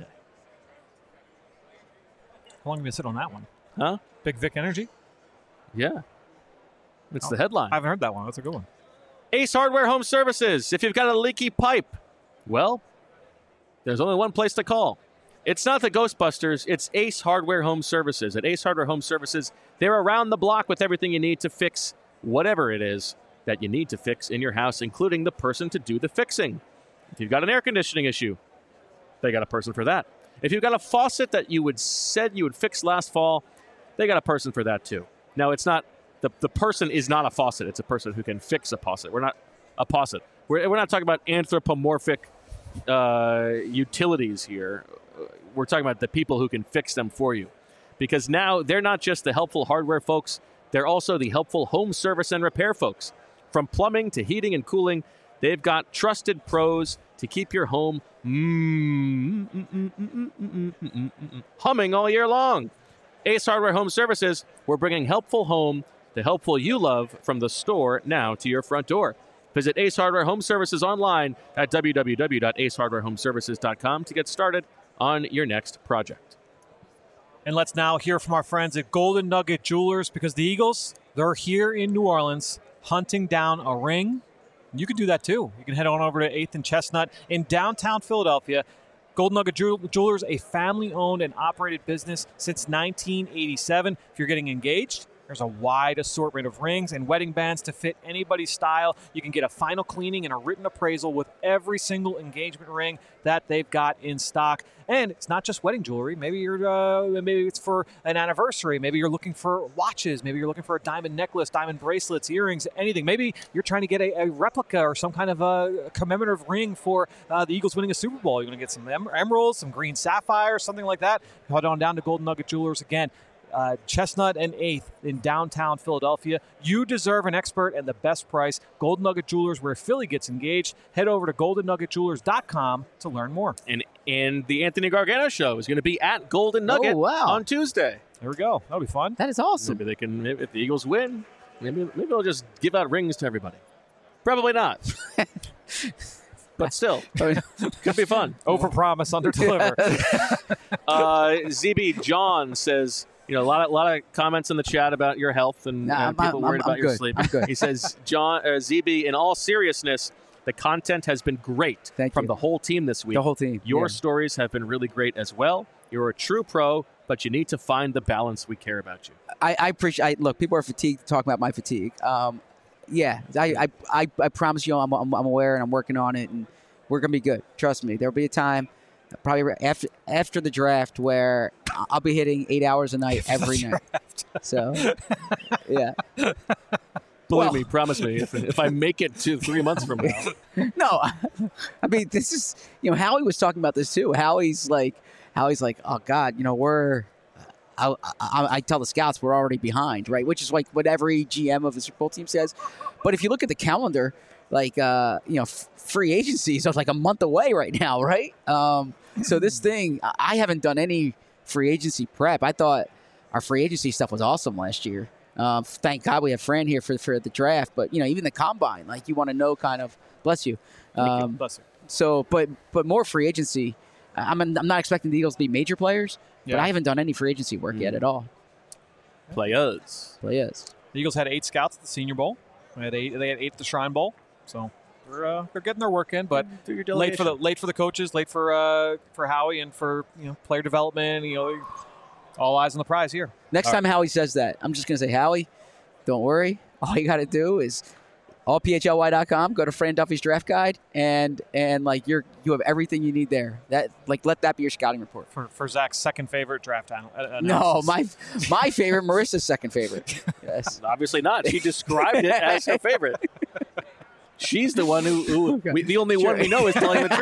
How long have you sit on that one? Huh? Big Vic energy? Yeah. It's the headline. I haven't heard that one. That's a good one. Ace Hardware Home Services. If you've got a leaky pipe, well, there's only one place to call. It's not the Ghostbusters. It's Ace Hardware Home Services. At Ace Hardware Home Services, they're around the block with everything you need to fix whatever it is that you need to fix in your house, including the person to do the fixing. If you've got an air conditioning issue, they got a person for that. If you've got a faucet that you said you would fix last fall, they got a person for that too. Now, it's not the person is not a faucet. It's a person who can fix a faucet. We're not a faucet. we're not talking about anthropomorphic utilities here. We're talking about the people who can fix them for you. Because now they're not just the helpful hardware folks, they're also the helpful home service and repair folks. From plumbing to heating and cooling, they've got trusted pros to keep your home humming all year long. Ace Hardware Home Services, we're bringing helpful home, the helpful you love, from the store now to your front door. Visit Ace Hardware Home Services online at www.acehardwarehomeservices.com to get started on your next project. And let's now hear from our friends at Golden Nugget Jewelers, because the Eagles, they're here in New Orleans hunting down a ring. You can do that too. You can head on over to 8th and Chestnut in downtown Philadelphia. Golden Nugget Jewelers, a family-owned and operated business since 1987. If you're getting engaged, there's a wide assortment of rings and wedding bands to fit anybody's style. You can get a final cleaning and a written appraisal with every single engagement ring that they've got in stock. And it's not just wedding jewelry. Maybe it's for an anniversary. Maybe you're looking for watches. Maybe you're looking for a diamond necklace, diamond bracelets, earrings, anything. Maybe you're trying to get a replica or some kind of a commemorative ring for the Eagles winning a Super Bowl. You're going to get some emeralds, some green sapphires, something like that. Head on down to Golden Nugget Jewelers again. Chestnut and 8th in downtown Philadelphia. You deserve an expert and the best price. Golden Nugget Jewelers, where Philly gets engaged. Head over to goldennuggetjewelers.com to learn more. And the Anthony Gargano show is going to be at Golden Nugget on Tuesday. There we go. That'll be fun. That is awesome. Maybe they can, if the Eagles win, maybe they'll just give out rings to everybody. Probably not. But still, could be fun. Overpromise, underdeliver. ZB John says, a lot of comments in the chat about your health and people worried about your sleep. I'm good. He says, ZB, in all seriousness, the content has been great from the whole team this week. The whole team. Your stories have been really great as well. You're a true pro, but you need to find the balance. We care about you. I appreciate. Look, people are fatigued talking about my fatigue. I promise you, I'm aware and I'm working on it, and we're gonna be good. Trust me. There'll be a time, probably after the draft, where I'll be hitting 8 hours a night every night. So, yeah. Believe me, promise me, if I make it to 3 months from now. No, I mean, this is, Howie was talking about this too. Howie's like, oh God, I tell the scouts we're already behind, right? Which is like what every GM of a Super Bowl team says. But if you look at the calendar, free agency is like a month away right now, right? So this thing, I haven't done any free agency prep. I thought our free agency stuff was awesome last year. Thank God we have Fran here for the draft. But even the combine, you want to know kind of. Bless you. Bless you. So, but more free agency. I'm not expecting the Eagles to be major players, but I haven't done any free agency work yet at all. Players. The Eagles had 8 scouts at the Senior Bowl. They had 8 at the Shrine Bowl. So they're getting their work in, but late for the coaches, late for Howie, and for player development. All eyes on the prize here. Next time Howie says that, I'm just gonna say, Howie, don't worry. All you got to do is allphly.com, go to Fran Duffy's draft guide, and you have everything you need there. That let that be your scouting report. For Zach's second favorite draft analysis. No, my favorite, Marissa's second favorite. Yes, obviously not. She described it as her favorite. She's the one who the only one we know is telling the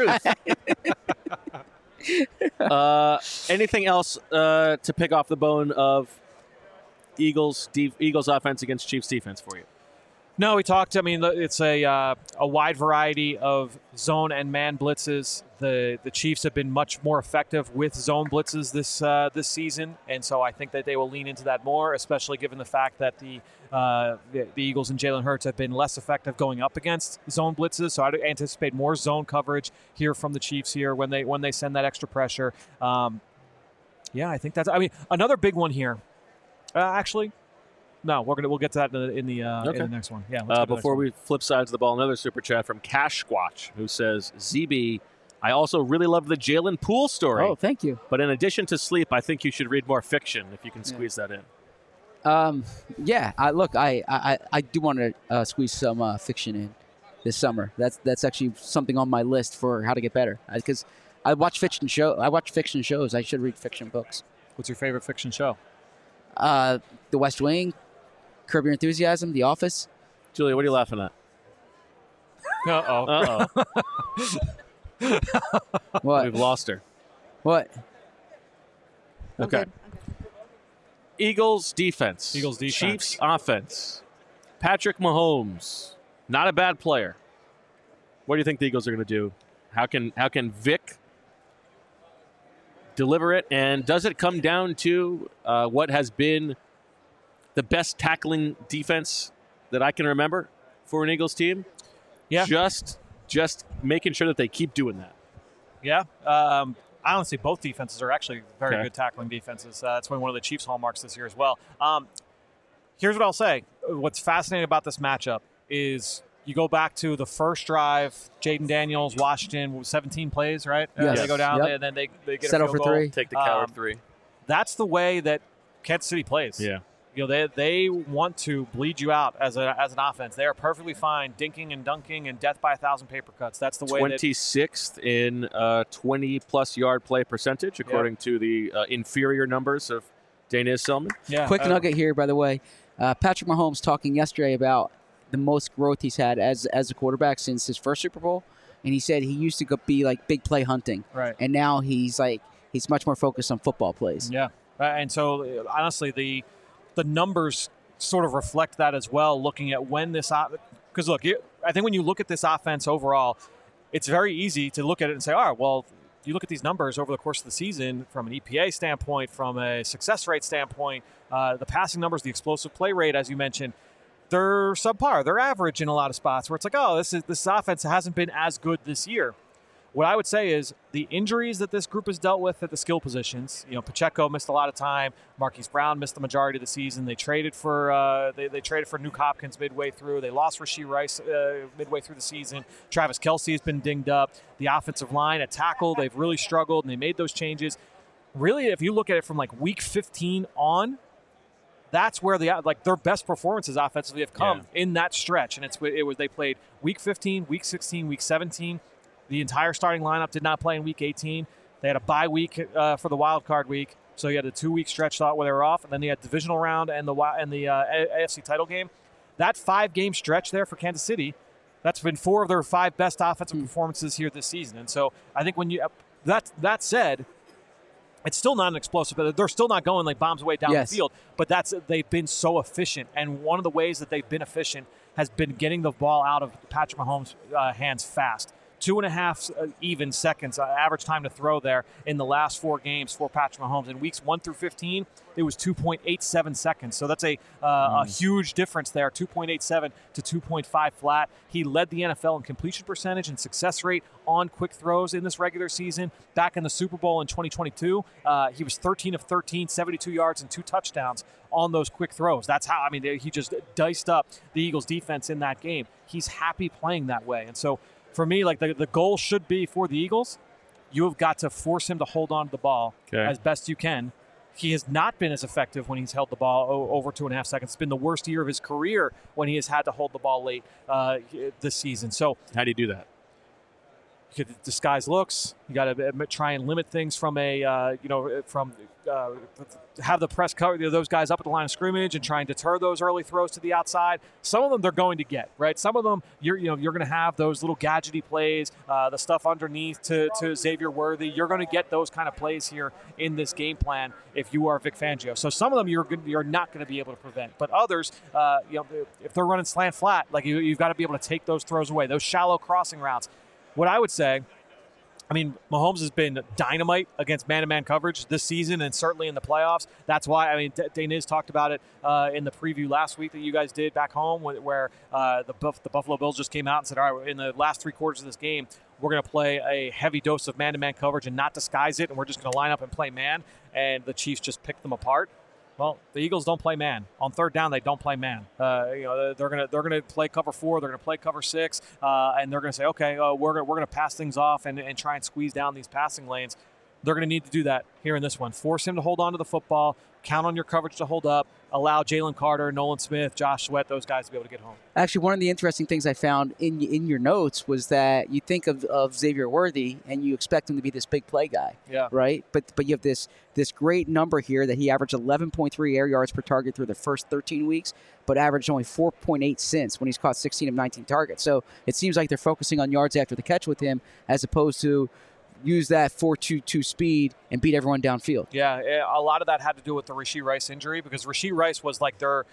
truth. Anything else to pick off the bone of Eagles offense against Chiefs defense for you? No, we talked. I mean, it's a wide variety of zone and man blitzes. The Chiefs have been much more effective with zone blitzes this season, and so I think that they will lean into that more, especially given the fact that the Eagles and Jalen Hurts have been less effective going up against zone blitzes. So I'd anticipate more zone coverage here from the Chiefs here when they send that extra pressure. I think that's. I mean, another big one here. Actually. No, we'll get to that in the next one. Yeah. Before we flip sides of the ball, another super chat from Cash Squatch, who says, "ZB, I also really love the Jalen Poole story. Oh, thank you. But in addition to sleep, I think you should read more fiction if you can squeeze that in." I do want to squeeze some fiction in this summer. That's actually something on my list for how to get better. Because I watch fiction shows. I should read fiction books. What's your favorite fiction show? The West Wing. Curb Your Enthusiasm, The Office. Julia, what are you laughing at? Uh-oh. What? We've lost her. What? Okay. I'm good. Eagles defense. Eagles defense. Chiefs offense. Patrick Mahomes, not a bad player. What do you think the Eagles are going to do? How can Vic deliver it? And does it come down to what has been the best tackling defense that I can remember for an Eagles team? Yeah. Just making sure that they keep doing that. Yeah. I honestly, both defenses are actually very good tackling defenses. That's one of the Chiefs' hallmarks this year as well. Here's what I'll say. What's fascinating about this matchup is you go back to the first drive, Jaden Daniels, Washington, 17 plays, right? Yes. They go down Yep. and then they get Settle a for field goal. 3. Take the coward 3. That's the way that Kansas City plays. Yeah. You know, they want to bleed you out as an offense. They are perfectly fine dinking and dunking and death by 1,000 paper cuts. That's the way. 26th in 20-plus yard play percentage, according to the inferior numbers of Dana Selman. Yeah. Quick nugget here, by the way. Patrick Mahomes talking yesterday about the most growth he's had as a quarterback since his first Super Bowl, and he said he used to be like big play hunting, Right. and now he's much more focused on football plays. Yeah. And so, honestly, the numbers sort of reflect that as well, looking at when this – because, look, I think when you look at this offense overall, it's very easy to look at it and say, all right, well, you look at these numbers over the course of the season from an EPA standpoint, from a success rate standpoint, the passing numbers, the explosive play rate, as you mentioned, they're subpar. They're average in a lot of spots where it's like, oh, this offense hasn't been as good this year. What I would say is the injuries that this group has dealt with at the skill positions. You know, Pacheco missed a lot of time. Marquise Brown missed the majority of the season. They traded for they traded for Nuke Hopkins midway through. They lost Rashee Rice midway through the season. Travis Kelce has been dinged up. The offensive line at tackle, they've really struggled, and they made those changes. Really, if you look at it from like week 15 on, that's where their best performances offensively have come in that stretch. And they played week 15, week 16, week 17. The entire starting lineup did not play in Week 18. They had a bye week for the wild card week, so you had a 2-week stretch where they were off, and then they had divisional round and the AFC title game. That 5-game stretch there for Kansas City, that's been 4 of their 5 best offensive performances here this season. And so I think when that said, it's still not an explosive, but they're still not going like bombs away down the field. But they've been so efficient, and one of the ways that they've been efficient has been getting the ball out of Patrick Mahomes' hands fast. 2.5 even seconds average time to throw there in the last 4 games for Patrick Mahomes. In weeks 1 through 15, it was 2.87 seconds. So that's a huge difference there, 2.87 to 2.5 flat. He led the NFL in completion percentage and success rate on quick throws in this regular season. Back in the Super Bowl in 2022, he was 13 of 13, 72 yards and 2 touchdowns on those quick throws. That's how, he just diced up the Eagles defense in that game. He's happy playing that way. And so for me, like the goal should be for the Eagles, you have got to force him to hold on to the ball as best you can. He has not been as effective when he's held the ball over 2.5 seconds. It's been the worst year of his career when he has had to hold the ball late this season. So how do you do that? You could disguise looks. You got to try and limit things from have the press cover those guys up at the line of scrimmage and try and deter those early throws to the outside. Some of them they're going to get, right? Some of them you're going to have those little gadgety plays, the stuff underneath to Xavier Worthy. You're going to get those kind of plays here in this game plan if you are Vic Fangio. So some of them you're not going to be able to prevent, but others, if they're running slant flat, like you've got to be able to take those throws away, those shallow crossing routes. What I would say, Mahomes has been dynamite against man-to-man coverage this season and certainly in the playoffs. That's why, Daniz talked about it in the preview last week that you guys did back home where the Buffalo Bills just came out and said, all right, in the last 3 quarters of this game, we're going to play a heavy dose of man-to-man coverage and not disguise it, and we're just going to line up and play man, and the Chiefs just picked them apart. Well, the Eagles don't play man. On 3rd down, they don't play man. They're gonna play cover 4. They're gonna play cover 6, and they're gonna say, okay, we're gonna pass things off and try and squeeze down these passing lanes. They're gonna need to do that here in this one. Force him to hold on to the football. count on your coverage to hold up, allow Jalen Carter, Nolan Smith, Josh Sweat, those guys to be able to get home. Actually, one of the interesting things I found in your notes was that you think of Xavier Worthy and you expect him to be this big play guy, right? But you have this great number here that he averaged 11.3 air yards per target through the first 13 weeks, but averaged only 4.8 since when he's caught 16 of 19 targets. So it seems like they're focusing on yards after the catch with him as opposed to use that 4.22 speed and beat everyone downfield. Yeah, a lot of that had to do with the Rashee Rice injury because Rashee Rice was like their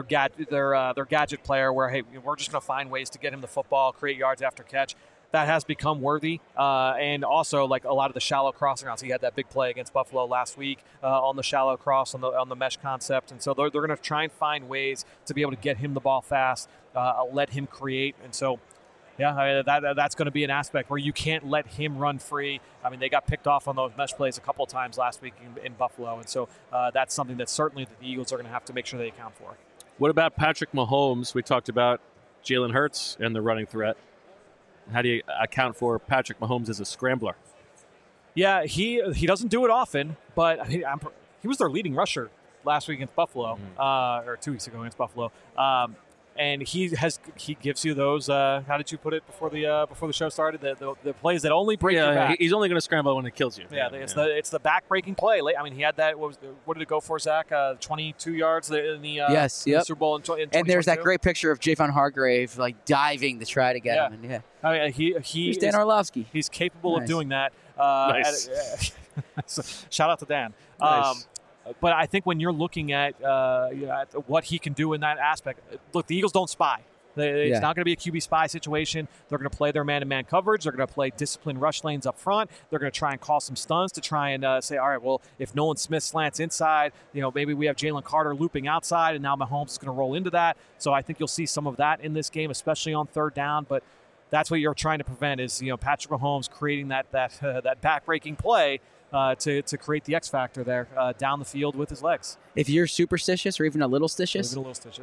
gadget player where, hey, we're just going to find ways to get him the football, create yards after catch. That has become Worthy. And also, like, a lot of the shallow crossing routes. He had that big play against Buffalo last week on the shallow cross, on the mesh concept. And so they're going to try and find ways to be able to get him the ball fast, let him create. And so, yeah, that's going to be an aspect where you can't let him run free. I mean, they got picked off on those mesh plays a couple of times last week in Buffalo. And so that's something that certainly the Eagles are going to have to make sure they account for. What about Patrick Mahomes? We talked about Jalen Hurts and the running threat. How do you account for Patrick Mahomes as a scrambler? Yeah, he doesn't do it often, but he was their leading rusher last week against Buffalo, or 2 weeks ago against Buffalo. And he gives you those. How did you put it before the show started? The plays that only break your back. He's only going to scramble when it kills you. Yeah, it's the back breaking play. I mean, he had that. What did it go for, Zach? 22 yards in the Super Bowl in 2022. And there's that great picture of Javon Hargrave like diving to try to get him. And I mean, he's Dan Orlovsky. He's capable of doing that. Nice. So, shout out to Dan. Nice. But I think when you're looking at what he can do in that aspect, look, the Eagles don't spy. It's not going to be a QB spy situation. They're going to play their man-to-man coverage. They're going to play disciplined rush lanes up front. They're going to try and call some stuns to try and say, all right, well, if Nolan Smith slants inside, maybe we have Jalen Carter looping outside, and now Mahomes is going to roll into that. So I think you'll see some of that in this game, especially on third down. But that's what you're trying to prevent is Patrick Mahomes creating that back-breaking play. To create the X factor there down the field with his legs. If you're superstitious or even a little stitious,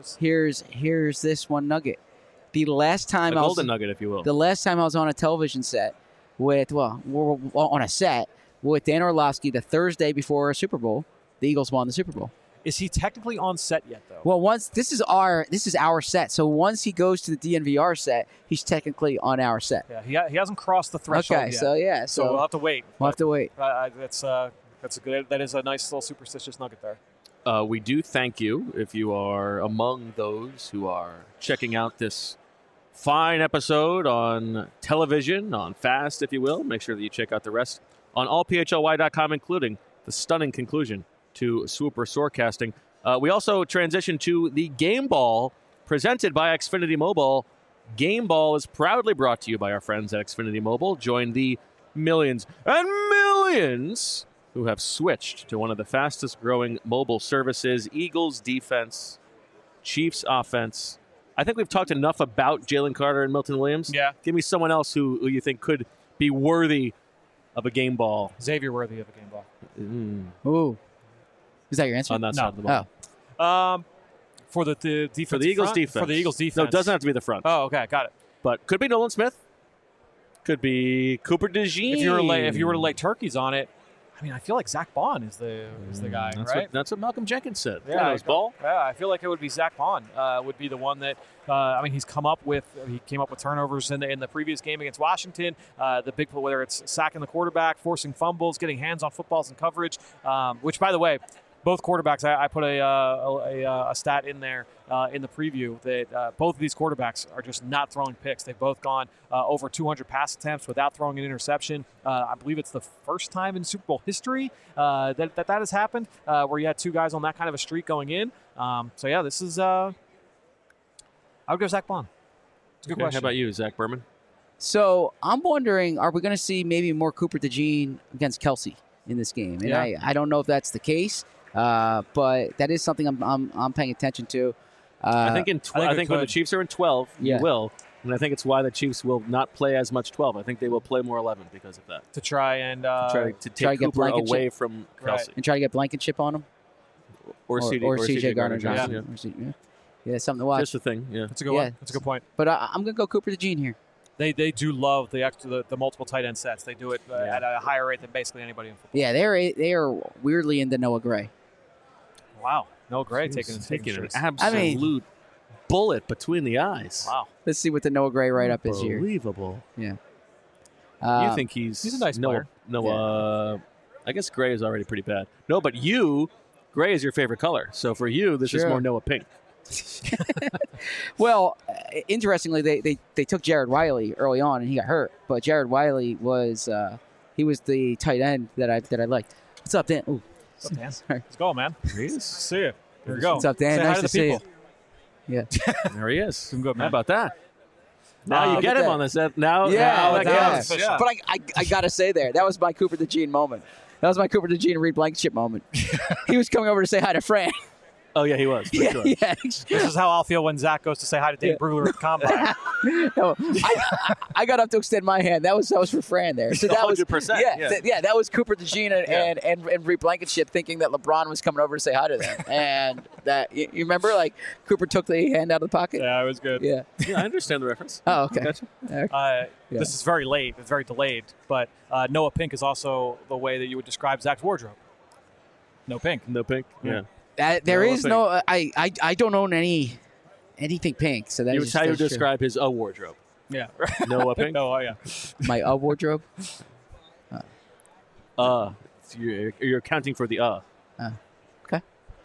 here's this one nugget. The last time golden nugget, if you will. The last time I was on a television set we're on a set with Dan Orlovsky the Thursday before a Super Bowl, the Eagles won the Super Bowl. Is he technically on set yet, though? Well, once this is our set. So once he goes to the DNVR set, he's technically on our set. Yeah, he hasn't crossed the threshold yet. So we'll have to wait. We'll have to wait. That's a good. That is a nice little superstitious nugget there. We do thank you if you are among those who are checking out this fine episode on television, on Fast, if you will. Make sure that you check out the rest on allphly.com, including the stunning conclusion to Swooper Sorecasting. We also transition to the Game Ball presented by Xfinity Mobile. Game Ball is proudly brought to you by our friends at Xfinity Mobile. Join the millions and millions who have switched to one of the fastest growing mobile services. Eagles defense, Chiefs offense. I think we've talked enough about Jalen Carter and Milton Williams. Yeah. Give me someone else who you think could be worthy of a game ball. Xavier worthy of a game ball. Ooh. Is that your answer? On that side of the ball. For the defense. For the Eagles defense. For the Eagles defense. No, it doesn't have to be the front. Oh, okay, got it. But could be Nolan Smith. Could be Cooper DeJean. If you were to lay turkeys on it, I mean, I feel like Zach Bond is the guy, right? That's what Malcolm Jenkins said. Yeah, ball. Yeah, I feel like it would be Zach Bond. Would be the one that he came up with turnovers in the previous game against Washington. The big play, whether it's sacking the quarterback, forcing fumbles, getting hands on footballs and coverage. Which, by the way, both quarterbacks, I put a stat in there in the preview that both of these quarterbacks are just not throwing picks. They've both gone over 200 pass attempts without throwing an interception. I believe it's the first time in Super Bowl history that has happened where you had two guys on that kind of a streak going in. This is I would go Zach Bond. It's a good question. How about you, Zach Berman? So I'm wondering, are we going to see maybe more Cooper DeJean against Kelsey in this game? And I don't know if that's the case. But that is something I'm paying attention to. I think when the Chiefs are in 12, you will. And I think it's why the Chiefs will not play as much 12. I think they will play more 11 because of that. To try and take Cooper away from Kelsey. Right. And try to get Blankenship on him. Or CJ Gardner-Johnson. Yeah, something to watch. Just a thing, yeah. That's a good one. That's a good point. But I'm going to go Cooper DeJean here. They do love the multiple tight end sets. They do it at a higher rate than basically anybody in football. Yeah, they are weirdly into Noah Gray. Wow. No Gray taking an absolute bullet between the eyes. Wow. Let's see what the Noah Gray write-up is here. Unbelievable. Yeah. You think he's a nice player. Noah, I guess Gray is already pretty bad. No, but Gray is your favorite color. So for you, this is more Noah Pink. Well, interestingly, they took Jared Wiley early on, and he got hurt. But Jared Wiley was he was the tight end that I liked. What's up, Dan? Ooh. What's up, Dan? Let's go, man. There he is. See you. Here we go. What's up, Dan? Say nice hi to to see people. you. Yeah. There he is. Doing good, man. How about that? Now you get him on this. Now Yeah. that counts. Yeah. But I got to say that was my Cooper DeJean moment. That was my Cooper DeJean Reed Blankenship moment. He was coming over to say hi to Fran. Oh, yeah, he was. For sure. Yeah. This is how I'll feel when Zach goes to say hi to Dave Brugler at the Combine. No, I got up to extend my hand. That was for Fran there. So that 100%. was that was Cooper DeJean and Reed Blankenship thinking that LeBron was coming over to say hi to them. And that you remember, like Cooper took the hand out of the pocket. Yeah, it was good. Yeah. Yeah, I understand the reference. Oh, okay. Gotcha. This is very late. It's very delayed. But Noah Pink is also the way that you would describe Zach's wardrobe. No pink. No Pink. Yeah. There is no. I don't own anything pink. So that's how you describe his wardrobe. Yeah. Noah Pink. No, yeah. My wardrobe. You're accounting for the Okay.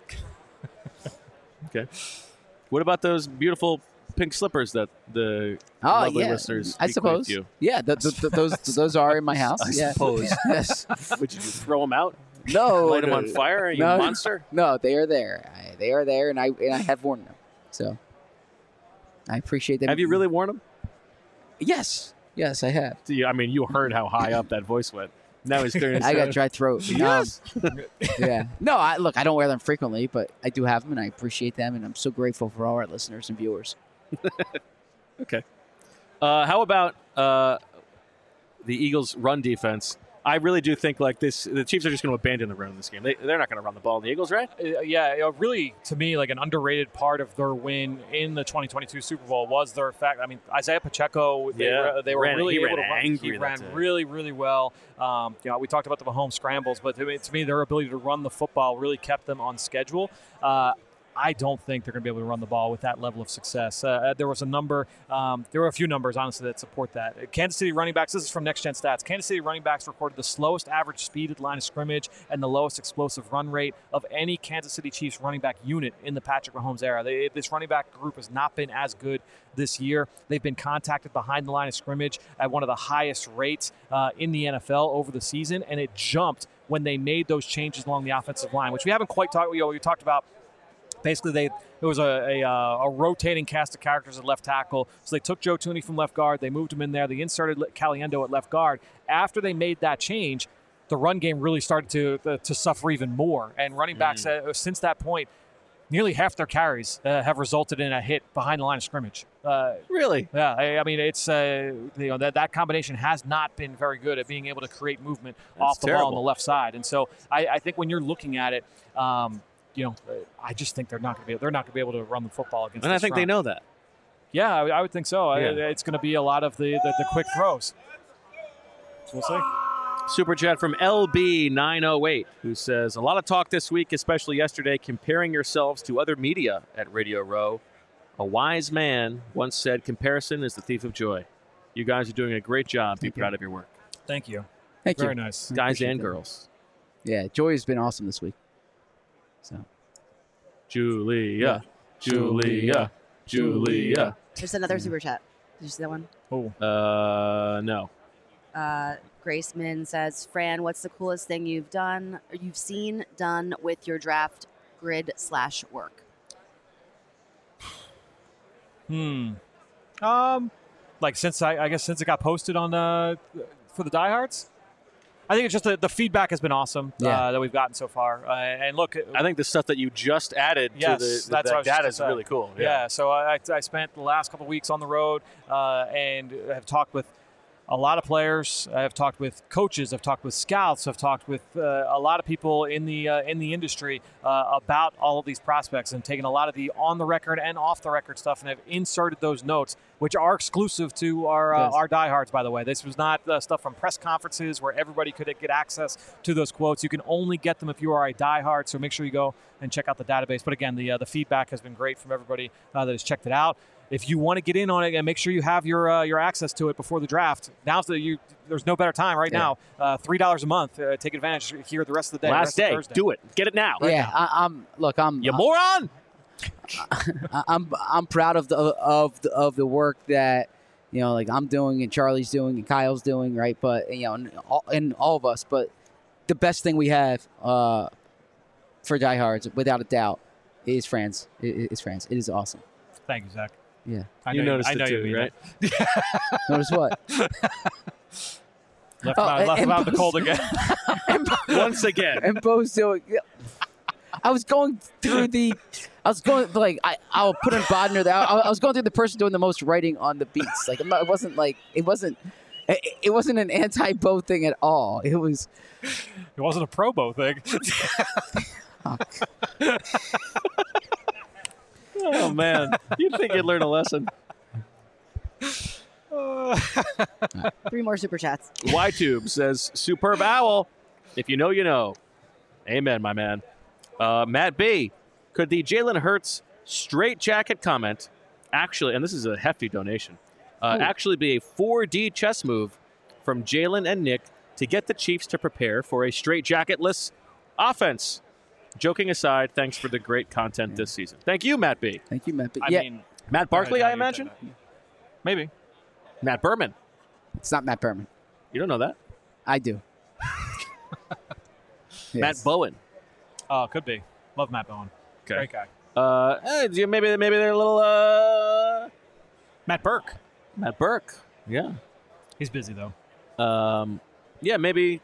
Okay. What about those beautiful pink slippers that the lovely listeners I suppose. you? Yeah, those are in my house. I yeah. suppose. Yes. Would you throw them out? No. Light them on fire? You monster? No, they are there. They are there, and I have worn them. So I appreciate them. Have you really worn them? Yes, I have. I mean, you heard how high up that voice went. Now he's clearing his I got throat. dry throat. Yes. Yeah. No, I don't wear them frequently, but I do have them, and I appreciate them, and I'm so grateful for all our listeners and viewers. Okay. How about the Eagles' run defense? I really do think like this. The Chiefs are just going to abandon the run in this game. They're not going to run the ball. The Eagles, right? Yeah, really, to me, like an underrated part of their win in the 2022 Super Bowl was their fact. I mean, Isaiah Pacheco, they were really able to run. He ran really, really well. We talked about the Mahomes scrambles, but to me, their ability to run the football really kept them on schedule. I don't think they're going to be able to run the ball with that level of success. There was a number, there were a few numbers, honestly, that support that. Kansas City running backs, this is from Next Gen Stats, Kansas City running backs recorded the slowest average speed at the line of scrimmage and the lowest explosive run rate of any Kansas City Chiefs running back unit in the Patrick Mahomes era. This running back group has not been as good this year. They've been contacted behind the line of scrimmage at one of the highest rates in the NFL over the season, and it jumped when they made those changes along the offensive line, which we haven't quite talked about. We talked about. Basically, there was a rotating cast of characters at left tackle. So they took Joe Thuney from left guard. They moved him in there. They inserted Caliendo at left guard. After they made that change, the run game really started to suffer even more. And running backs, since that point, nearly half their carries have resulted in a hit behind the line of scrimmage. Really? Yeah. I mean, it's that combination has not been very good at being able to create movement off the ball on the left side. And so I think when you're looking at it. I just think they're not going to be able to run the football against. And I think they know that. Yeah, I would think so. Yeah. It's going to be a lot of the quick throws. So we'll see. Super chat from LB908, who says, a lot of talk this week, especially yesterday, comparing yourselves to other media at Radio Row. A wise man once said, comparison is the thief of joy. You guys are doing a great job. Be proud of your work. Thank you. Thank you. Very nice. Guys and girls. Yeah, Joy has been awesome this week. So, Julia. There's another super chat. Did you see that one? Oh. No. Grace Min says, Fran, what's the coolest thing you've seen done with your draft grid/work? Like since it got posted on for the diehards. I think it's just the feedback has been awesome that we've gotten so far. And look, I think the stuff that you just added to the data is really cool. Yeah. So I spent the last couple of weeks on the road and have talked with a lot of players. I've talked with coaches. I've talked with scouts. I've talked with a lot of people in the industry about all of these prospects, and taken a lot of the on the record and off the record stuff, and have inserted those notes, which are exclusive to our diehards. By the way, this was not stuff from press conferences where everybody could get access to those quotes. You can only get them if you are a diehard. So make sure you go and check out the database. But again, the feedback has been great from everybody that has checked it out. If you want to get in on it and make sure you have your access to it before the draft, there's no better time right now. $3 a month. Take advantage here the rest of the day. Last day. Do it. Get it now. I'm you moron. I'm proud of the work that like I'm doing and Charlie's doing and Kyle's doing, right? But and all of us. But the best thing we have for diehards, without a doubt, is France. Is France. It is awesome. Thank you, Zach. Yeah. You noticed it too, right? Notice what? Left out the cold again. Once again. And Bo's doing. I'll put in Bodner there. I was going through the person doing the most writing on the beats. Like it wasn't an anti-Bo thing at all. It wasn't a pro-Bo thing. Oh, man. You'd think you'd learn a lesson. 3 more super chats. YTube says, superb owl. If you know, you know. Amen, my man. Matt B, could the Jalen Hurts straight jacket comment actually, and this is a hefty donation, actually be a 4D chess move from Jalen and Nick to get the Chiefs to prepare for a straight jacketless offense? Joking aside, thanks for the great content this season. Thank you, Matt B. Thank you, Matt B. I mean, Matt Barkley, I imagine? Maybe. Matt Berman. It's not Matt Berman. You don't know that? I do. Matt Bowen. Oh, could be. Love Matt Bowen. Okay. Great guy. Maybe they're a little... Matt Burke. Matt Burke. Yeah. He's busy, though. Yeah, maybe...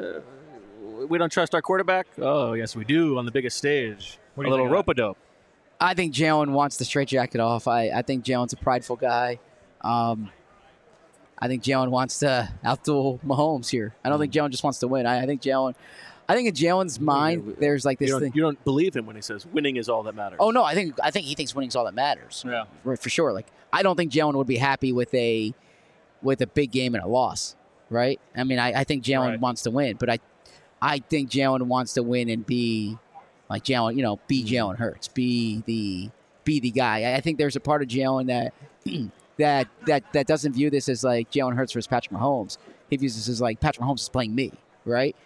we don't trust our quarterback? Oh, yes, we do on the biggest stage. A little rope-a-dope. I think Jalen wants the straitjacket off. I think Jalen's a prideful guy. I think Jalen wants to outduel Mahomes here. I don't think Jalen just wants to win. I think in Jalen's mind, there's like this thing. You don't believe him when he says winning is all that matters. Oh, no, I think he thinks winning is all that matters. Yeah. For sure. Like, I don't think Jalen would be happy with a big game and a loss, right? I mean, I think Jalen wants to win, but I think Jalen wants to win and be like Jalen, be Jalen Hurts, be the guy. I think there's a part of Jalen that doesn't view this as like Jalen Hurts versus Patrick Mahomes. He views this as like Patrick Mahomes is playing me, right?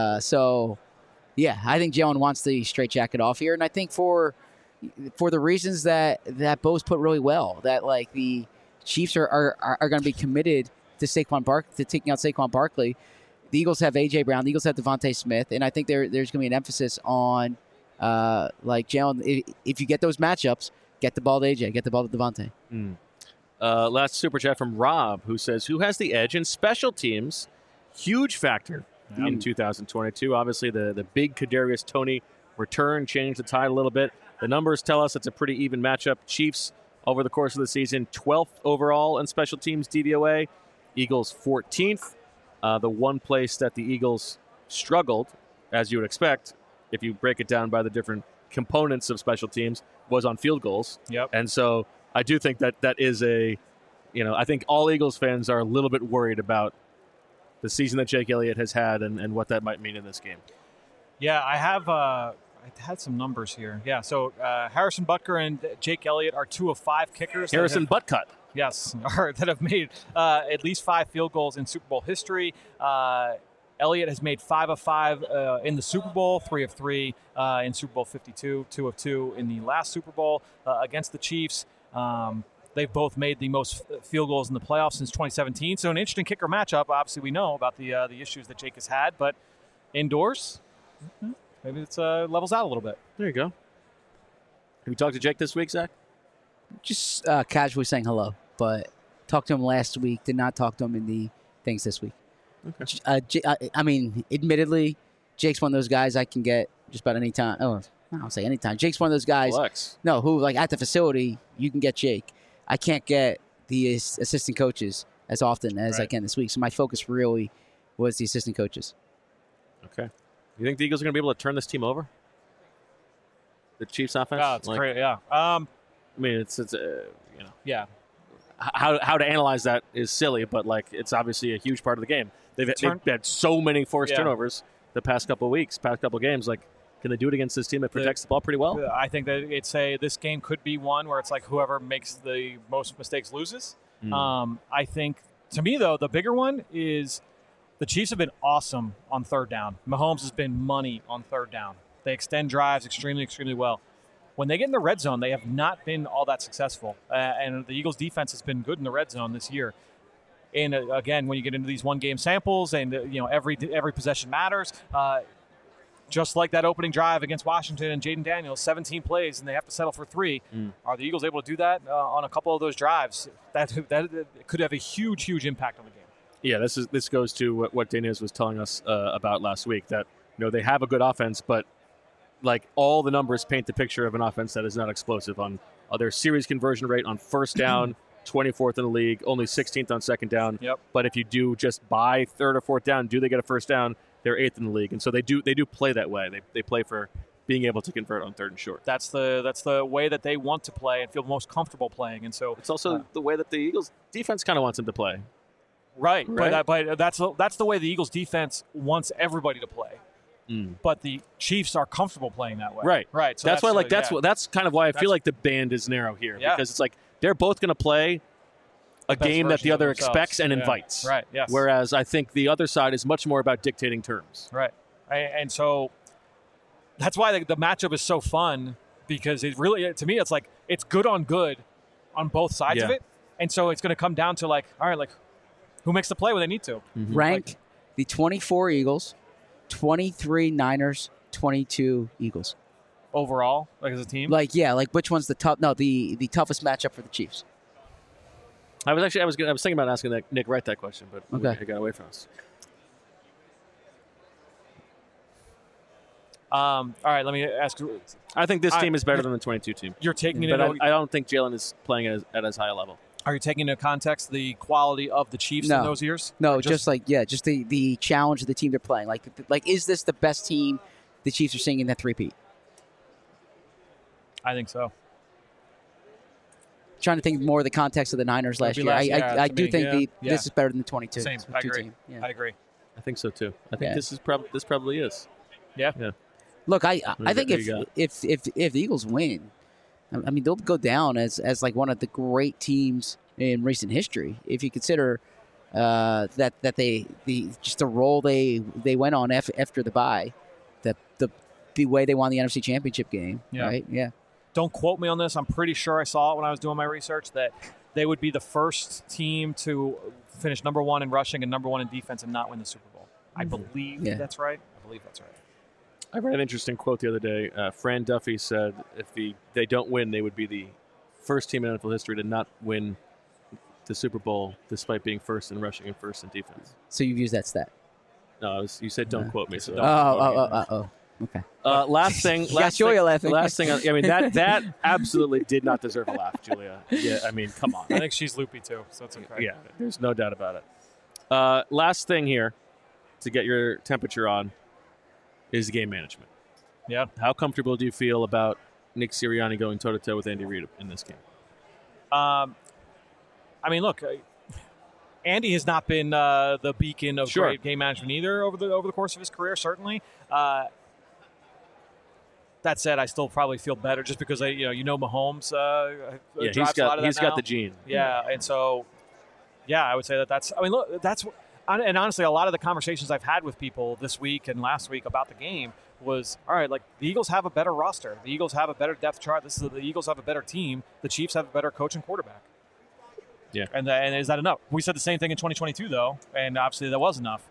So, yeah, I think Jalen wants the straitjacket off here, and I think for the reasons that Bo's put really well, that like the Chiefs are going to be committed to taking out Saquon Barkley. The Eagles have A.J. Brown. The Eagles have Devontae Smith. And I think there's going to be an emphasis on, like, Jalen, if you get those matchups, get the ball to A.J., get the ball to Devontae. Last super chat from Rob, who says, who has the edge in special teams? Huge factor in 2022. Obviously, the big Kadarius Toney return changed the tide a little bit. The numbers tell us it's a pretty even matchup. Chiefs, over the course of the season, 12th overall in special teams DVOA. Eagles, 14th. The one place that the Eagles struggled, as you would expect, if you break it down by the different components of special teams, was on field goals. Yep. And so I do think that is I think all Eagles fans are a little bit worried about the season that Jake Elliott has had and what that might mean in this game. Yeah, I had some numbers here. Yeah, so Harrison Butker and Jake Elliott are 2 of 5 kickers. Harrison Butcut. Yes, that have made at least 5 field goals in Super Bowl history. Elliott has made 5 of 5 in the Super Bowl, 3 of 3 in Super Bowl 52, 2 of 2 in the last Super Bowl against the Chiefs. They've both made the most field goals in the playoffs since 2017. So an interesting kicker matchup. Obviously, we know about the issues that Jake has had, but indoors, maybe it's levels out a little bit. There you go. Have you talked to Jake this week, Zach? Just casually saying hello, but talked to him last week. Did not talk to him in the things this week. Okay. I mean, admittedly, Jake's one of those guys I can get just about any time. Oh, I don't say anytime. Jake's one of those guys. Flex. No, who like at the facility you can get Jake. I can't get the assistant coaches as often as I can this week. So my focus really was the assistant coaches. Okay. You think the Eagles are going to be able to turn this team over? The Chiefs offense? Yeah, it's great. Yeah. I mean, it's Yeah. how to analyze that is silly, but like it's obviously a huge part of the game. They've had so many forced turnovers the past couple of weeks, past couple of games. Like, can they do it against this team that protects the ball pretty well? I think that this game could be one where it's like whoever makes the most mistakes loses. I think, to me, though, the bigger one is the Chiefs have been awesome on third down. Mahomes has been money on third down. They extend drives extremely, extremely well. When they get in the red zone, they have not been all that successful. And the Eagles' defense has been good in the red zone this year. And again, when you get into these one-game samples and every possession matters, just like that opening drive against Washington and Jaden Daniels, 17 plays, and they have to settle for 3. Are the Eagles able to do that on a couple of those drives? That could have a huge, huge impact on the game. Yeah, this goes to what Daniels was telling us about last week, that they have a good offense, but like all the numbers paint the picture of an offense that is not explosive on their series conversion rate on first down, 24th in the league, only 16th on second down. Yep. But if you do just buy third or fourth down, do they get a first down? They're 8th in the league, and so they do play that way. They play for being able to convert on third and short. That's the way that they want to play and feel most comfortable playing, and so it's also the way that the Eagles defense kind of wants them to play. Right? But that's the way the Eagles defense wants everybody to play. But the Chiefs are comfortable playing that way. Right. So that's why, that's kind of why I feel like the band is narrow here, because it's like they're both going to play a game that the other expects and invites. Right. Yes. Whereas I think the other side is much more about dictating terms. Right. And so that's why the matchup is so fun, because it really, to me, it's like it's good on both sides of it, and so it's going to come down to who makes the play when they need to. Rank the 24 Eagles, 23 Niners, 22 Eagles. Overall, as a team? Which one's the tough? No, the toughest matchup for the Chiefs. I was thinking about asking Nick Wright that question, but it got away from us. All right, let me ask you. I think this team is better than the 22 team. You're taking it, but I don't think Jalen is playing at as high a level. Are you taking into context the quality of the Chiefs in those years? No, just the challenge of the team they're playing. Like, is this the best team the Chiefs are seeing in that three-peat? I think so. Trying to think more of the context of the Niners last year. I do think this is better than the 22. Same. I agree. I agree. I think so too. I think this probably is. Yeah. Look, I think if the Eagles win, I mean, they'll go down as like one of the great teams in recent history. If you consider that the role they went on after the bye, the way they won the NFC Championship game, right? Yeah. Don't quote me on this. I'm pretty sure I saw it when I was doing my research that they would be the first team to finish number 1 in rushing and number 1 in defense and not win the Super Bowl. I believe that's right. I read an interesting quote the other day. Fran Duffy said if they don't win, they would be the first team in NFL history to not win the Super Bowl despite being first in rushing and first in defense. So you've used that stat? No, you said don't quote me. So okay. Last thing. Laughing. Last thing. I mean that absolutely did not deserve a laugh, Julia. Yeah, I mean, come on. I think she's loopy too, so it's okay. Yeah, there's no doubt about it. Last thing here to get your temperature on is game management. Yeah. How comfortable do you feel about Nick Sirianni going toe-to-toe with Andy Reid in this game? I mean, look, Andy has not been the beacon of great game management either over the course of his career, certainly. That said, I still probably feel better just because Mahomes drives a lot of that he's got the gene. Yeah, and so, I would say that's. I mean, look, that's. And honestly, a lot of the conversations I've had with people this week and last week about the game was, all right, like the Eagles have a better roster. The Eagles have a better depth chart. The Eagles have a better team. The Chiefs have a better coach and quarterback. Yeah. And is that enough? We said the same thing in 2022, though, and obviously that was enough.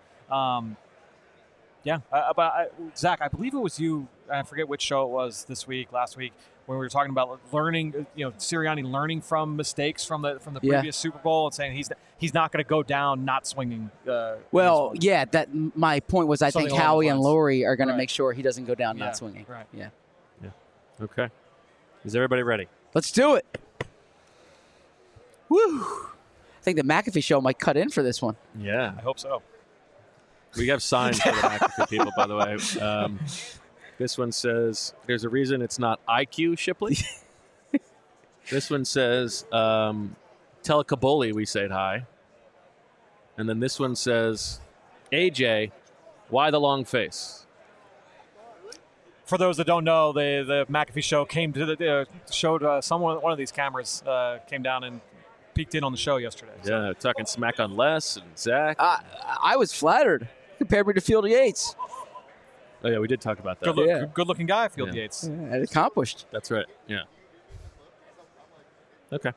Zach, I believe it was you, I forget which show it was last week, when we were talking about learning, Sirianni learning from mistakes from the previous Super Bowl and saying he's not going to go down not swinging. That my point was I think Howie and Laurie are going to make sure he doesn't go down not swinging. Right. Yeah. Okay. Is everybody ready? Let's do it. Woo! think the McAfee show might cut in for this one. Yeah. I hope so. We have signs for the McAfee people, by the way. This one says, there's a reason it's not IQ Shipley. This one says, tell Kaboli we said hi. And then this one says, AJ, why the long face? For those that don't know, the McAfee show came to showed one of these cameras came down and peeked in on the show yesterday. Yeah, talking smack on Les and Zach. I was flattered. Compared me to Field Yates. Oh, yeah, we did talk about that. Good-looking guy, Field Yates. Yeah, accomplished. That's right, yeah. Okay.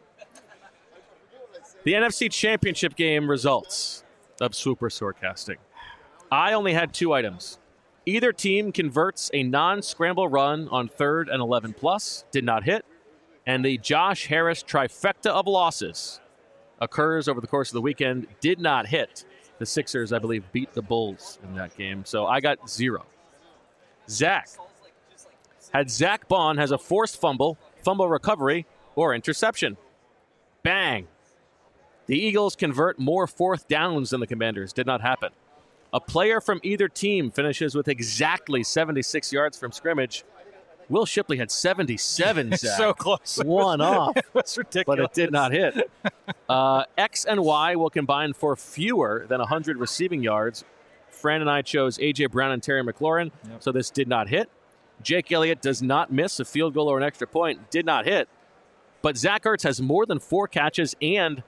The NFC Championship game results of Super Sorecasting. I only had 2 items. Either team converts a non-scramble run on 3rd and 11 plus, did not hit, and the Josh Harris trifecta of losses occurs over the course of the weekend, did not hit. The Sixers, I believe, beat the Bulls in that game, so I got 0. Zach had Zach Bond has a forced fumble recovery, or interception. Bang. The Eagles convert more 4th downs than the Commanders. Did not happen. A player from either team finishes with exactly 76 yards from scrimmage. Will Shipley had 77, Zach. So close. One off. That's ridiculous. But it did not hit. X and Y will combine for fewer than 100 receiving yards. Fran and I chose A.J. Brown and Terry McLaurin, so this did not hit. Jake Elliott does not miss a field goal or an extra point. Did not hit. But Zach Ertz has more than 4 catches and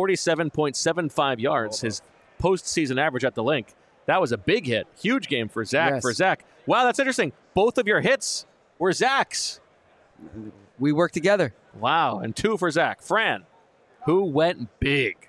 47.75 yards, his postseason average at the link. That was a big hit. Huge game for Zach. Yes. Wow, that's interesting. Both of your hits were Zach's. We worked together. Wow, and 2 for Zach. Fran, who went big,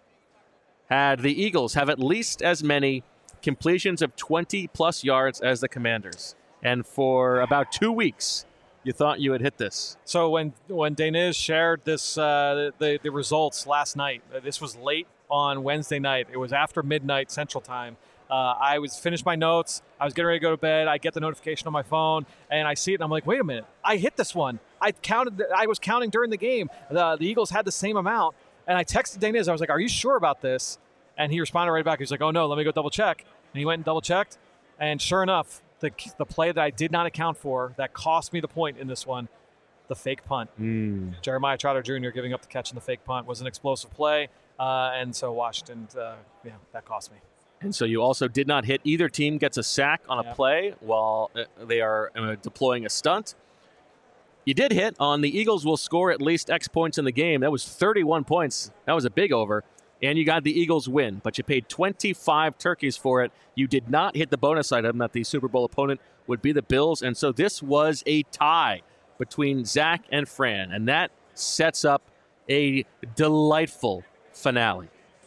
had the Eagles have at least as many completions of 20-plus yards as the Commanders. And for about 2 weeks, you thought you had hit this. So when Daniz shared this the results last night, this was late on Wednesday night. It was after midnight Central Time. I was finished my notes. I was getting ready to go to bed. I get the notification on my phone, and I see it, and I'm like, wait a minute. I hit this one. I was counting during the game. The Eagles had the same amount, and I texted Daniz. I was like, are you sure about this? And he responded right back. He was like, oh, no, let me go double check. And he went and double checked, and sure enough, the play that I did not account for that cost me the point in this one, the fake punt. Jeremiah Trotter Jr. giving up the catch in the fake punt was an explosive play, and so Washington, that cost me. And so you also did not hit. Either team gets a sack on a play while they are deploying a stunt. You did hit on the Eagles will score at least X points in the game. That was 31 points. That was a big over. And you got the Eagles win, but you paid 25 turkeys for it. You did not hit the bonus item that the Super Bowl opponent would be the Bills. And so this was a tie between Zach and Fran. And that sets up a delightful finale.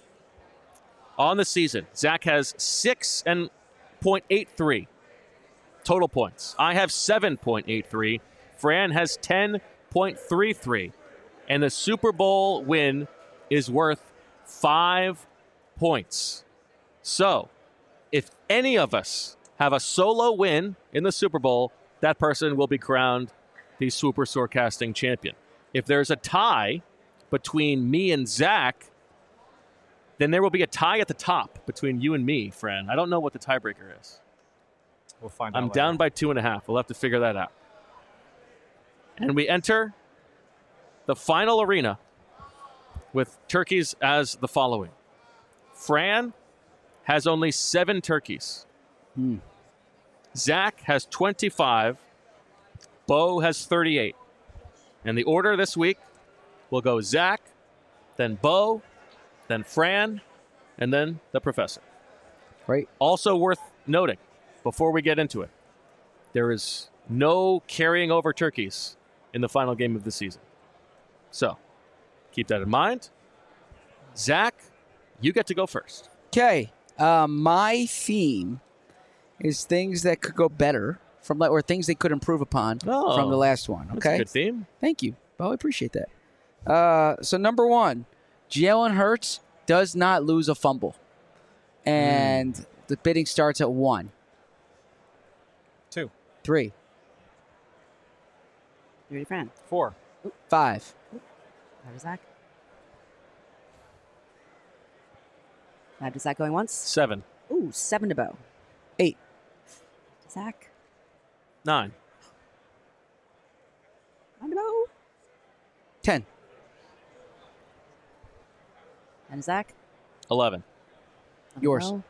On the season, Zach has 6.83 total points. I have 7.83. Fran has 10.33. And the Super Bowl win is worth 5 points. So, if any of us have a solo win in the Super Bowl, that person will be crowned the Super Sorecasting champion. If there's a tie between me and Zach, then there will be a tie at the top between you and me, Fran. I don't know what the tiebreaker is. We'll find out. I'm down by 2.5. We'll have to figure that out. And we enter the final arena with turkeys as the following. Fran has only 7 turkeys. Zach has 25. Bo has 38. And the order this week will go Zach, then Bo, then Fran, and then the professor. Right. Also worth noting, before we get into it, there is no carrying over turkeys in the final game of the season. So, keep that in mind. Zach, you get to go first. Okay. My theme is things that could go better or things they could improve upon from the last one. Okay. That's a good theme. Thank you. Well, I appreciate that. So number 1, Jalen Hurts does not lose a fumble. And the bidding starts at 1. 2. 3. You ready, Fran? 4. 5. How was Zach? 5 to Zach going once. 7. Ooh, 7 to Bo. 8. To Zach. 9. 9 to Bo. 10. And Zach. 11. 11 to Yours. Bo.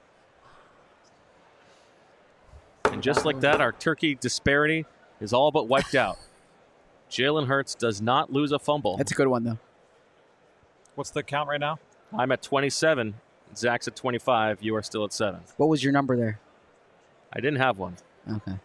And just like that, our turkey disparity is all but wiped out. Jalen Hurts does not lose a fumble. That's a good one, though. What's the count right now? I'm at 27. Zach's at 25. You are still at 7. What was your number there? I didn't have one. Okay.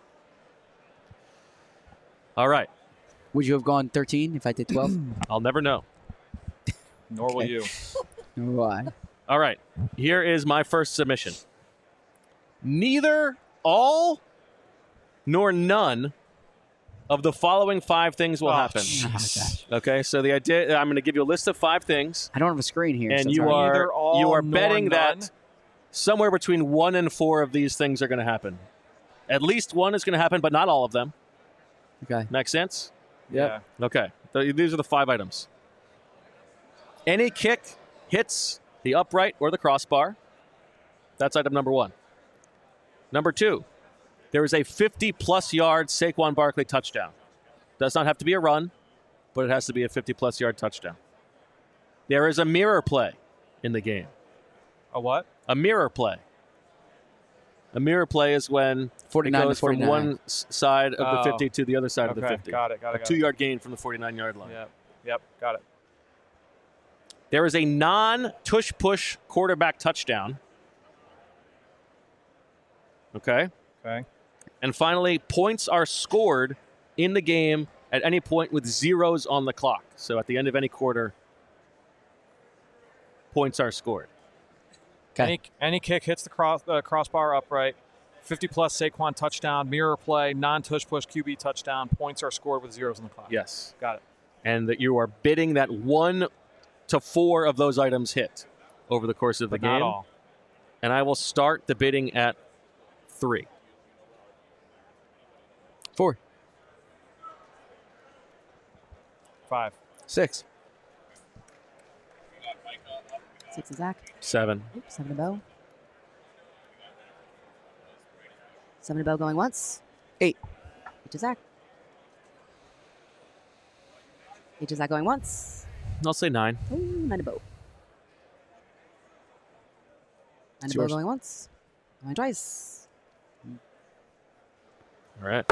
All right. Would you have gone 13 if I did 12? I'll never know. Nor will you. Why? All right. Here is my first submission. Neither all nor none of the following 5 things will happen. jeez. Okay, so the idea, I'm going to give you a list of 5 things, I don't have a screen here. and so it's you hard. Neither all are nor betting none? that somewhere between 1 and 4 of these things are going to happen. At least one is going to happen, but not all of them. Okay. Make sense? Yep. Yeah. Okay. These are the 5 items. Any kick hits the upright or the crossbar. That's item number 1. Number 2, there is a 50-plus yard Saquon Barkley touchdown. Does not have to be a run, but it has to be a 50-plus yard touchdown. There is a mirror play in the game. A what? A mirror play. A mirror play is when it 49 to goes from 49. one side of the Oh. 50 to the other side of the Okay, 50. got it. A 2-yard gain from the 49-yard line. Yep, got it. There is a non-tush-push quarterback touchdown. Okay. Okay. And finally, points are scored in the game at any point with zeros on the clock. So at the end of any quarter, points are scored. Okay. Any kick hits the crossbar upright. 50-plus Saquon touchdown, mirror play, non-tush push QB touchdown. Points are scored with zeros on the clock. Yes. Got it. And that you are bidding that 1 to 4 of those items hit over the course of the But game. not all. And I will start the bidding at 3. 4. 5. 6. 6 to Zach. 7. Ooh, 7 to Bo. 7 to Bo going once. 8. 8 to Zach. 8 to Zach going once. I'll say 9. Ooh, 9 to Bo. 9 It's to Bo yours. going once. Going twice. All right.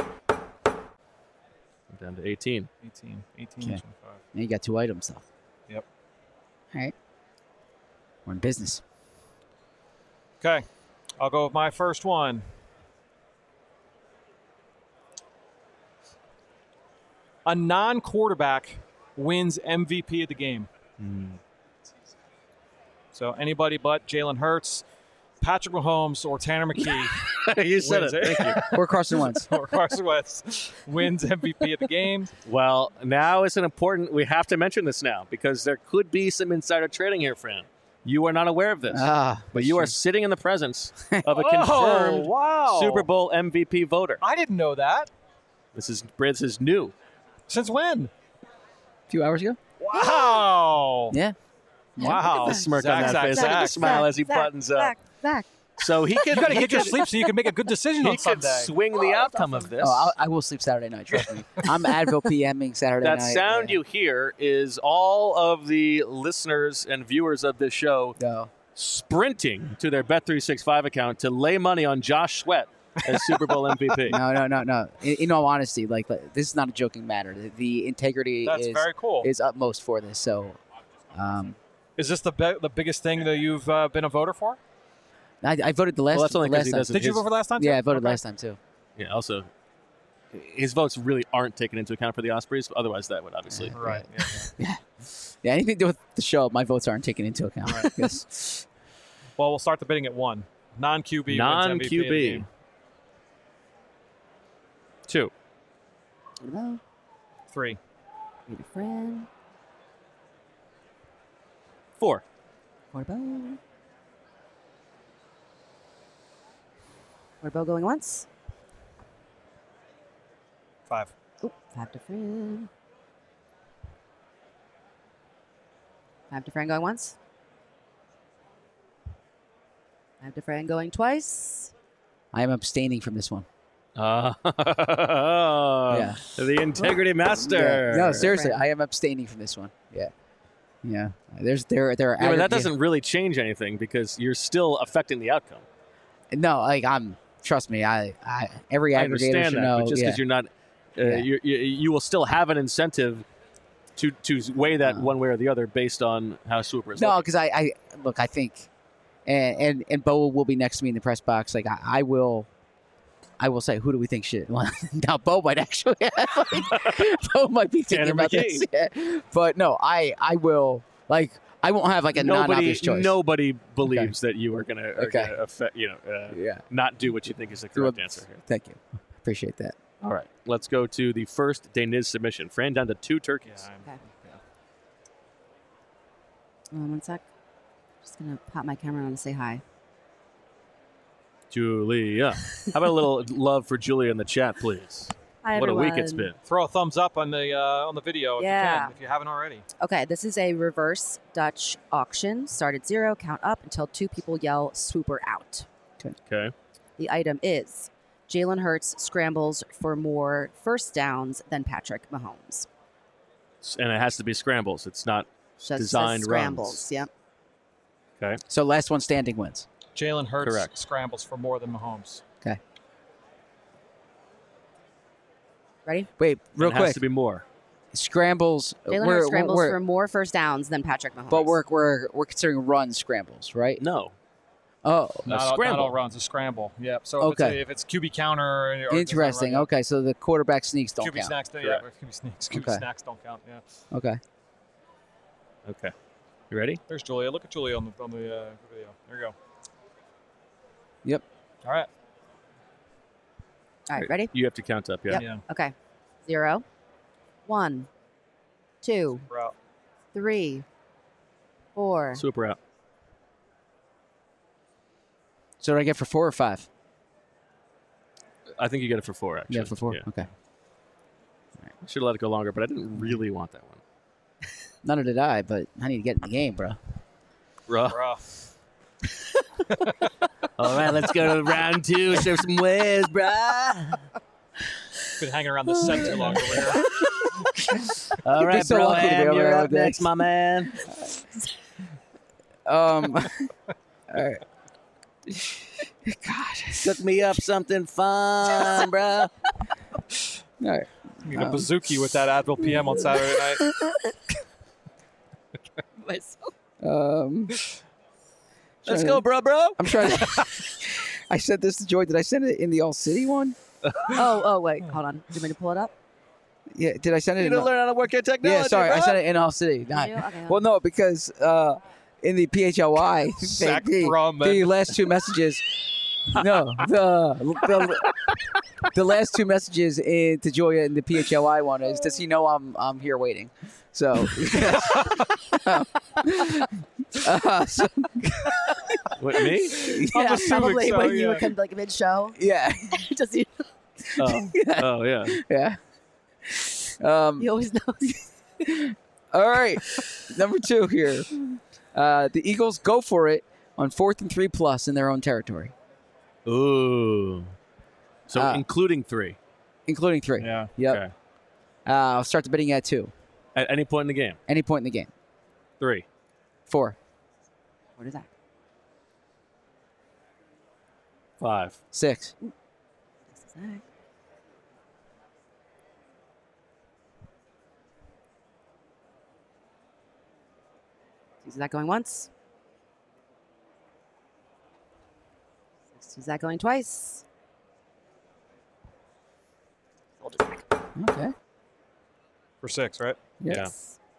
Down to 18. 18. 18 Okay. 25. And you got 2 items, though. Yep. All right. We're in business. Okay. I'll go with my first one. A non-quarterback wins MVP of the game. So anybody but Jalen Hurts, Patrick Mahomes, or Tanner McKee You said wins it. Thank you. Or Carson Wentz. or Carson Wentz wins MVP of the game. Well, now is an important. We have to mention this now because there could be some insider trading here, Fran. You are not aware of this, but you are sitting in the presence of a confirmed wow. Super Bowl MVP voter. I didn't know that. This is new. Since when? A few hours ago. Wow. Yeah. Wow. The smirk Zach, on that Zach, face. Zach, Look at the Zach, smile as he buttons up. Zach. So he could. You got to get your sleep so you can make a good decision He on could Sunday. swing the outcome of this. Oh, I will sleep Saturday night. Trust me. I'm Advil PMing Saturday That night. sound yeah. you hear is all of the listeners and viewers of this show No. sprinting to their Bet365 account to lay money on Josh Sweat as Super Bowl MVP. No. In all honesty, like this is not a joking matter. The integrity That's very cool. is utmost for this. So, Is this the biggest thing that you've been a voter for? I voted the last. Well, that's only the 'cause last he time. doesn't- Did you his- vote for last time? Yeah, too? I voted Okay. last time too. Yeah, also, his votes really aren't taken into account for the Ospreys. Otherwise, that would obviously. Right. Yeah. Yeah, anything to do with the show, my votes aren't taken into account. Yes. Well, we'll start the bidding at 1. Non-QB wins MVP of the Non-QB. game. 2. 8 to Bo. 3. 8 to Fran. 4. 4 to Bo. 4 to Bo going once. 5. Ooh, 5 to Fran. 5 to Fran going once. have to Fran going twice. I am abstaining from this one. Yeah. Yeah. The integrity master. No, seriously, I am abstaining from this one. Yeah. Yeah. There are Yeah, but that doesn't really change anything because you're still affecting the outcome. No, like trust me, I every I aggregator understand should that, know. but just because you're not, you will still have an incentive to weigh that one way or the other based on how Swooper is. No, looking. because I think, and Bo will be next to me in the press box. Like I will say, who do we think should? Well, now Bo might actually, Bo might be thinking Tanner about this. Yeah. But no, I will like. I won't have like a non-obvious choice. Nobody believes that you are going to affect, not do what you think is the correct answer here. Thank you. Appreciate that. All right, let's go to the first Deniz submission. Fran down to 2 turkeys. Okay. One sec. Just gonna pop my camera on to say hi. Julia. How about a little love for Julia in the chat, please? Hi, What everyone. a week it's been. Throw a thumbs up on the video if you haven't already. Okay, this is a reverse Dutch auction. Start at 0, count up until 2 people yell "Swooper out." Okay. The item is Jalen Hurts scrambles for more first downs than Patrick Mahomes. And it has to be scrambles. It's not Just designed scrambles. runs. Yep. Okay. So last one standing wins. Jalen Hurts Correct. scrambles for more than Mahomes. Okay. Ready? Wait, real It has quick. to be more. Scrambles. Jalen Hurts scrambles for more first downs than Patrick Mahomes. But we're considering run scrambles, right? No. Oh, Not all runs, a scramble. Yep. So Okay. if it's QB counter. Or interesting. Okay, so the quarterback sneaks don't QB count. snacks, QB snacks don't count. Yeah. Okay. Okay. You ready? There's Julia. Look at Julia on the video. There you go. Yep. All right. All right, ready? You have to count up, yeah. Yep. Yeah. Okay. 0, 1, 2, We're out. 3, 4. Super out. So did I get for 4 or 5? I think you get it for 4, actually. Yeah, for 4. Yeah. Okay. I should have let it go longer, but I didn't really want that one. None did I, but I need to get in the game, bro. Rough. All right, let's go to round 2. Serve some ways, bruh. Been hanging around the set too long over here. All right, so bro. lucky to be over You're there up with next, this. my man. All right. God. Cook me up something fun, bro. All right. Need a bazooki with that Advil PM on Saturday night. Let's go, bro. I'm trying to. I sent this to Joy. Did I send it in the All City one? Oh, wait. Hold on. Do you want me to pull it up? Yeah. Did I send it You in? need to learn how to work your technology, Yeah, sorry. bro. I sent it in All City. Not, you? Okay, well, no, because in the PHLY, Sack the drum, the last 2 messages. No, the last 2 messages to Julia in the PHLY one is, does he know I'm here waiting? So, so What, me? Yeah, assuming probably so, when you yeah. would come like mid-show. yeah, Does he? Oh, oh yeah. yeah. He always knows. All right, number 2 here. The Eagles go for it on 4th and 3+ in their own territory, Ooh. So including 3. including 3. Yeah. Yep. Okay. I'll start the bidding at 2. At any point in the game. Any point in the game. 3. 4, What is that? 5. 6, Is that going once? Is that going twice? Hold it back. Okay. For 6, right? Yeah.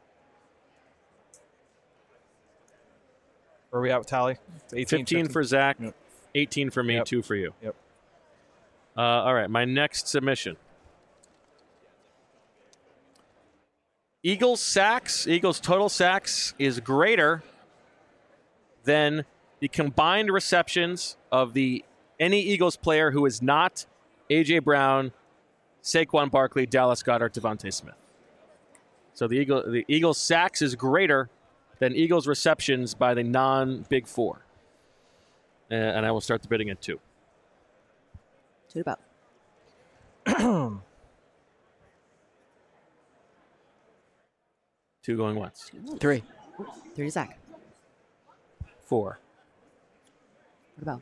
Where are we at with tally? It's 18, 15 for Zach, Yep. 18 for me, Yep. 2 for you. Yep. All right, my next submission. Eagles total sacks is greater than the combined receptions of any Eagles player who is not A.J. Brown, Saquon Barkley, Dallas Goedert, Devontae Smith. So the Eagles sacks is greater than Eagles receptions by the non-Big Four. and I will start the bidding at 2. 2 to Bo. 2 going once. 3. 3 to Zach. 4. 4 to Bo.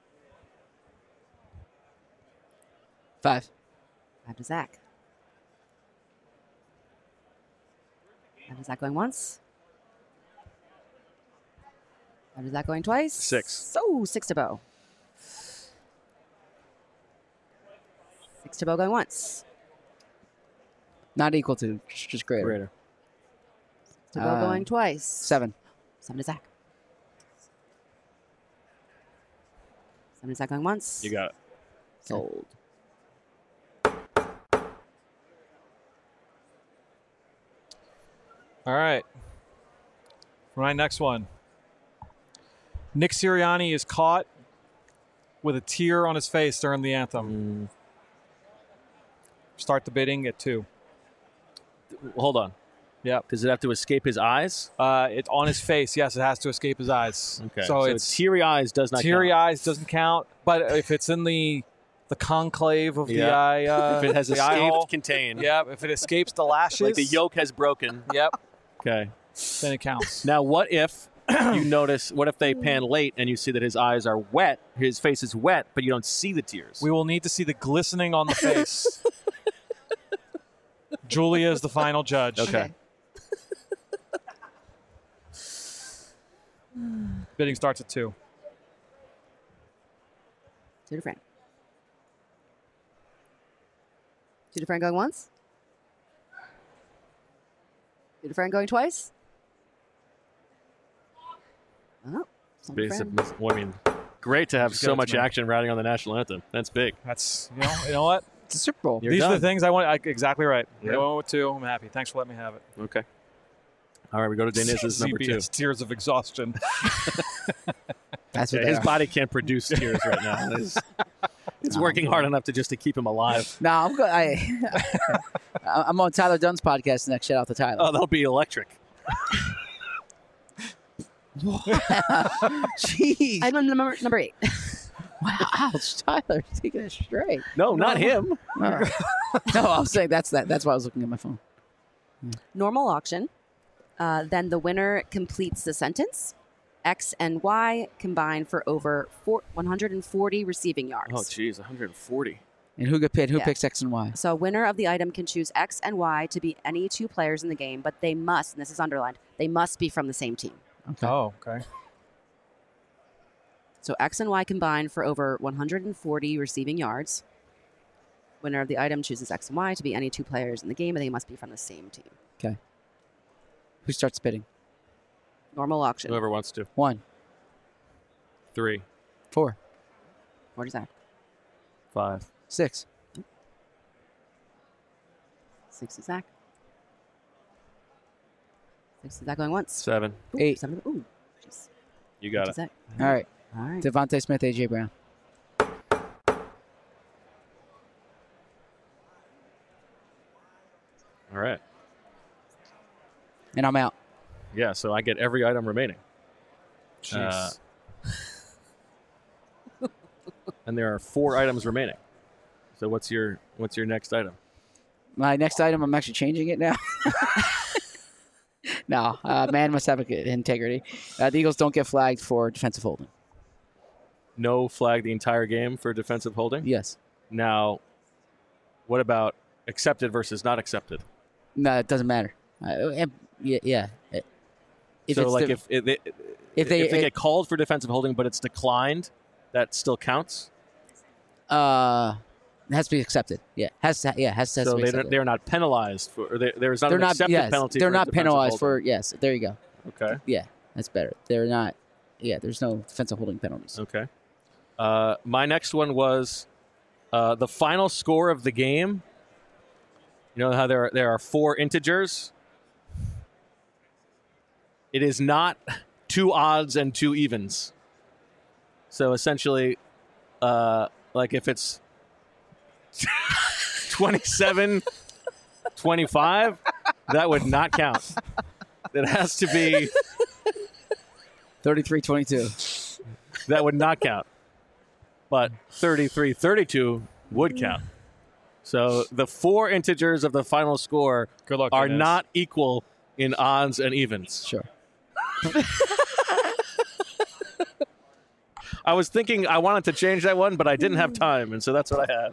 5. 5 to Zach. 5 to Zach going once. 5 to Zach going twice. 6. So 6 to Bo. 6 to Bo going once. Not equal to, just greater. Greater. 6 to Bo going twice. 7. 7 to Zach. 7 to Zach going once. You got it. Sold. All right. For my next one, Nick Sirianni is caught with a tear on his face during the anthem. Start the bidding at 2. Hold on. Yep. Does it have to escape his eyes? It's on his face. Yes, it has to escape his eyes. Okay. So it's teary eyes does not teary count. eyes doesn't count. But if it's in the conclave of the eye, if it has the eye hole, escaped contain. Yep. If it escapes the lashes, Like the yolk has broken. Yep. Okay. Then it counts. Now, what if you notice, what if they pan late and you see that his eyes are wet, his face is wet, but you don't see the tears? We will need to see the glistening on the face. Julia is the final judge. Okay. Bidding starts at 2. 2 to Fran. 2 to Fran going once. 2 to Fran going twice. Oh, some to Fran. Well, I mean, great to have so much action riding on the national anthem. That's big. That's you know what? It's a Super Bowl. You're These done. are the things I want. Exactly right. Yeah. I went with 2. I'm happy. Thanks for letting me have it. Okay. All right, we go to Deniz's number 2. ZBS, tears of exhaustion. That's what Yeah, they his are. body can't produce tears right now. It's working hard enough to keep him alive. No, I'm good. I'm on Tyler Dunn's podcast next. Shout out to Tyler. Oh, that'll be electric. Jeez. Item number 8. Wow, ouch, Tyler, taking it straight. No, not him. All right. No, I was saying that's that. That's why I was looking at my phone. Normal auction. Then the winner completes the sentence. X and Y combine for over 140 receiving yards. Oh, geez, 140. And who get paid? Who Yeah. picks X and Y? So winner of the item can choose X and Y to be any 2 players in the game, but they must, and this is underlined, they must be from the same team. Okay. Oh, okay. So X and Y combine for over 140 receiving yards. Winner of the item chooses X and Y to be any 2 players in the game, and they must be from the same team. Okay. Who starts bidding? Normal auction. Whoever wants to. 1, 3, 4, What is that? 5. 6. 6 to Zach. 6 to Zach going once. 7. Ooh, 8. 7. Ooh, jeez. You got To it. Zach. All right. All right. Devontae Smith, AJ Brown. All right. And I'm out. Yeah, so I get every item remaining. Jeez. And there are 4 items remaining. So what's your next item? My next item, I'm actually changing it now. No, man must have integrity. The Eagles don't get flagged for defensive holding. No flag the entire game for defensive holding? Yes. Now, what about accepted versus not accepted? No, it doesn't matter. Yeah. If so, it's like, the- if they it- get called for defensive holding, but it's declined, that still counts? it has to be accepted. Yeah, has to be So accepted. they're not penalized for, or there's not They're an not. accepted Yes, penalty. they're for not defensive penalized for. holding. Yes, there you go. Okay. Yeah, that's better. They're not. Yeah, there's no defensive holding penalties. Okay. My next one was the final score of the game. You know how there are 4 integers? It is not 2 odds and 2 evens. So essentially, like if it's 27-25, that would not count. It has to be 33-22. that would not count. But 33-32 would count. So the 4 integers of the final score Good luck, are Inez. not equal in odds and evens. Sure. I was thinking I wanted to change that one, but I didn't have time, and so that's what I had.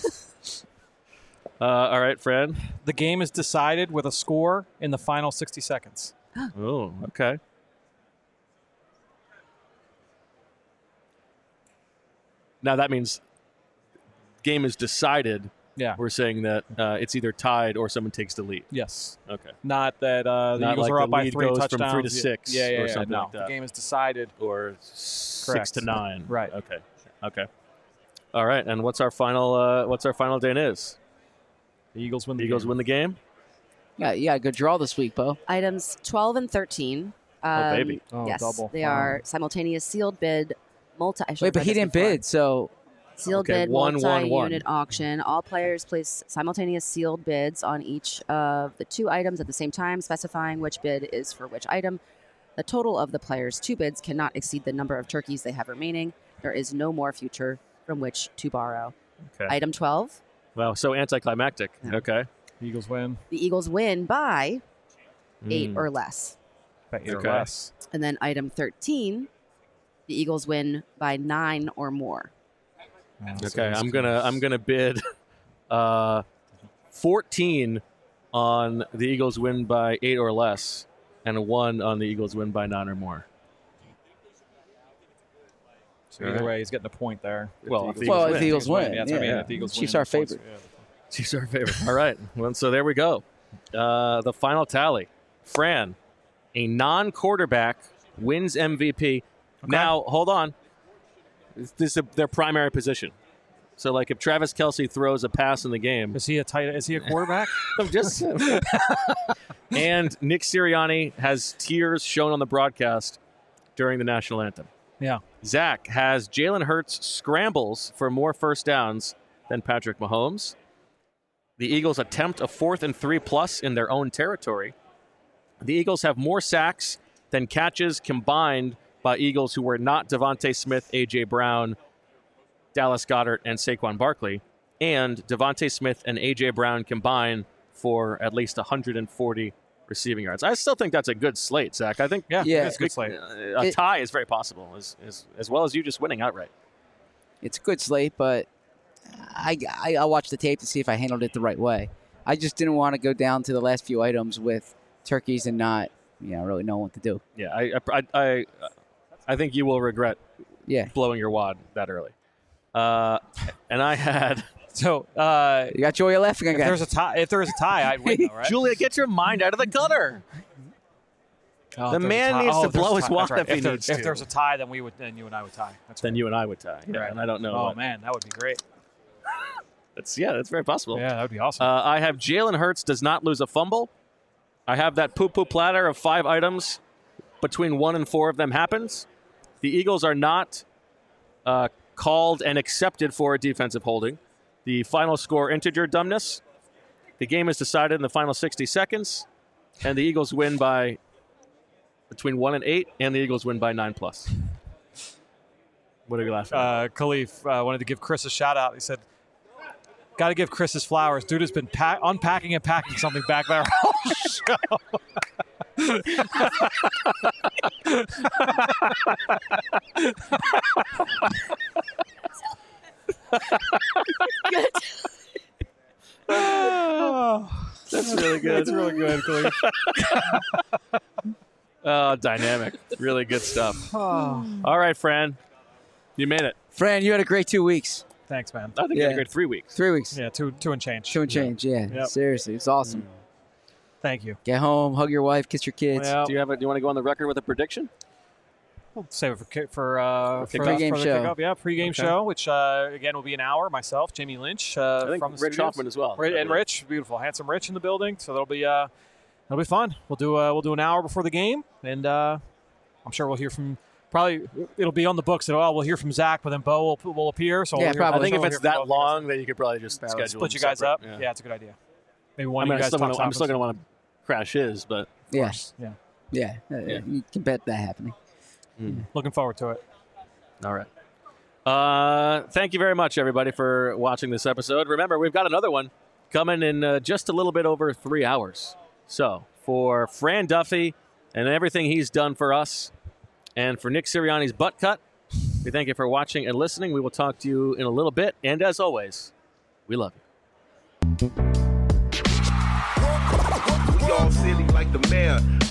All right, Fran. The game is decided with a score in the final 60 seconds. Oh, okay. Now that means game is decided. Yeah. We're saying that it's either tied or someone takes the lead. Yes. Okay. Not that the Not Eagles like are the up by lead 3 goes touchdowns. from 3 to 6 Yeah, or something no. like that. The game is decided. Or 6 Correct. to 9. Right. Okay. All right. And what's our final? What's our final, Dan? Is The Eagles win the the Eagles game. win the game? Yeah, good draw this week, Bo. Items 12 and 13. Baby. Oh, yes, double. they Wow. are simultaneous sealed bid, I should Wait, have but read he this didn't before. bid, so Sealed Okay, bid, 1-1-1. multi-unit auction. All players place simultaneous sealed bids on each of the 2 items at the same time, specifying which bid is for which item. The total of the players' 2 bids cannot exceed the number of turkeys they have remaining. There is no more future from which to borrow. Okay. Item 12, Wow. So anticlimactic. Yeah. Okay. Eagles win the Eagles win by 8 Mm. or less. by 8 Okay. or less. And then item 13, the Eagles win by 9 or more. Okay. I'm gonna bid 14 on the Eagles win by 8 or less, and a 1 on the Eagles win by 9 or more. So either way, he's getting a point there. Well, if if the the well, Eagles if the Eagles win, Yeah, that's what I mean. yeah. If the Eagles Chiefs win, are the points- favored. yeah. Chiefs are favorite. All right. Well, so there we go. The final tally. Fran, a non-quarterback wins MVP. Now, hold on. This is their primary position. So, like, if Travis Kelce throws a pass in the game, Is he a quarterback? I'm just and Nick Sirianni has tears shown on the broadcast during the national anthem. Yeah. Zach has Jalen Hurts scrambles for more first downs than Patrick Mahomes. The Eagles attempt a 4th and 3+ in their own territory. The Eagles have more sacks than catches combined by Eagles who were not Devontae Smith, A.J. Brown, Dallas Goedert, and Saquon Barkley. And Devontae Smith and A.J. Brown combined for at least 140 receiving yards. I still think that's a good slate, Zach. I think Yeah. Yeah. It's a good slate. a tie is very possible, as well as you just winning outright. it's a good slate, but I'll watch the tape to see if I handled it the right way. I just didn't want to go down to the last few items with turkeys and not, really know what to do. Yeah, I think you will regret Yeah. blowing your wad that early. And I had So You got Joey laughing if again. there's a tie, I'd win, though, right? Julia, get your mind out of the gutter. Oh, The if there's a man tie- needs to there's blow a his tie. wad That's if he there- needs If to. there's a tie, then you and I would tie. That's Then right. you and I would tie. Yeah, Right. and I don't know. Oh what- man, that would be great. that's very possible. Yeah, that would be awesome. I have Jalen Hurts does not lose a fumble. I have that poo-poo platter of 5 items. Between 1 and 4 of them happens. The Eagles are not called and accepted for a defensive holding. The final score, integer dumbness. The game is decided in the final 60 seconds. And the Eagles win by between 1 and 8, and the Eagles win by 9+. What are you laughing at? Khalif wanted to give Chris a shout out. He said, "Got to give Chris his flowers. Dude has been unpacking and packing something back there all show." That's really good. That's really good, Khalif. Oh, dynamic. Really good stuff. All right, Fran. You made it. Fran, you had a great 2 weeks. Thanks, man. I think you had a Yeah. great 3 weeks. 3 weeks. Yeah, two and change. 2 and change, yeah. Yep. Seriously, it's awesome. Thank you. Get home, hug your wife, kiss your kids. Well, Do you want to go on the record with a prediction? we'll save it for kickoff. Pregame the show. kickoff. Yeah, pregame Okay. show, which again will be an hour. Myself, Jamie Lynch, I think from the Rich studios. Hoffman as well. And Rich, beautiful, handsome Rich in the building. So that'll be fun. We'll do an hour before the game, and I'm sure we'll hear from. Probably it'll be on the books. We'll hear from Zach, but then Bo will appear. So Yeah, we'll hear, probably. I think if we'll it's hear from that both of you guys. long, then you could probably just schedule Split them you guys separate. up. Yeah, it's a good idea. Maybe one I mean, of you guys talks I'm still going to opposites. want to crash his, but Yeah, Yeah. yeah. You can bet that happening. Looking forward to it. All right. Thank you very much, everybody, for watching this episode. Remember, we've got another one coming in just a little bit over 3 hours. So for Fran Duffy and everything he's done for us, and for Nick Sirianni's butt cut, we thank you for watching and listening. We will talk to you in a little bit. And as always, we love you. We all silly like the mayor.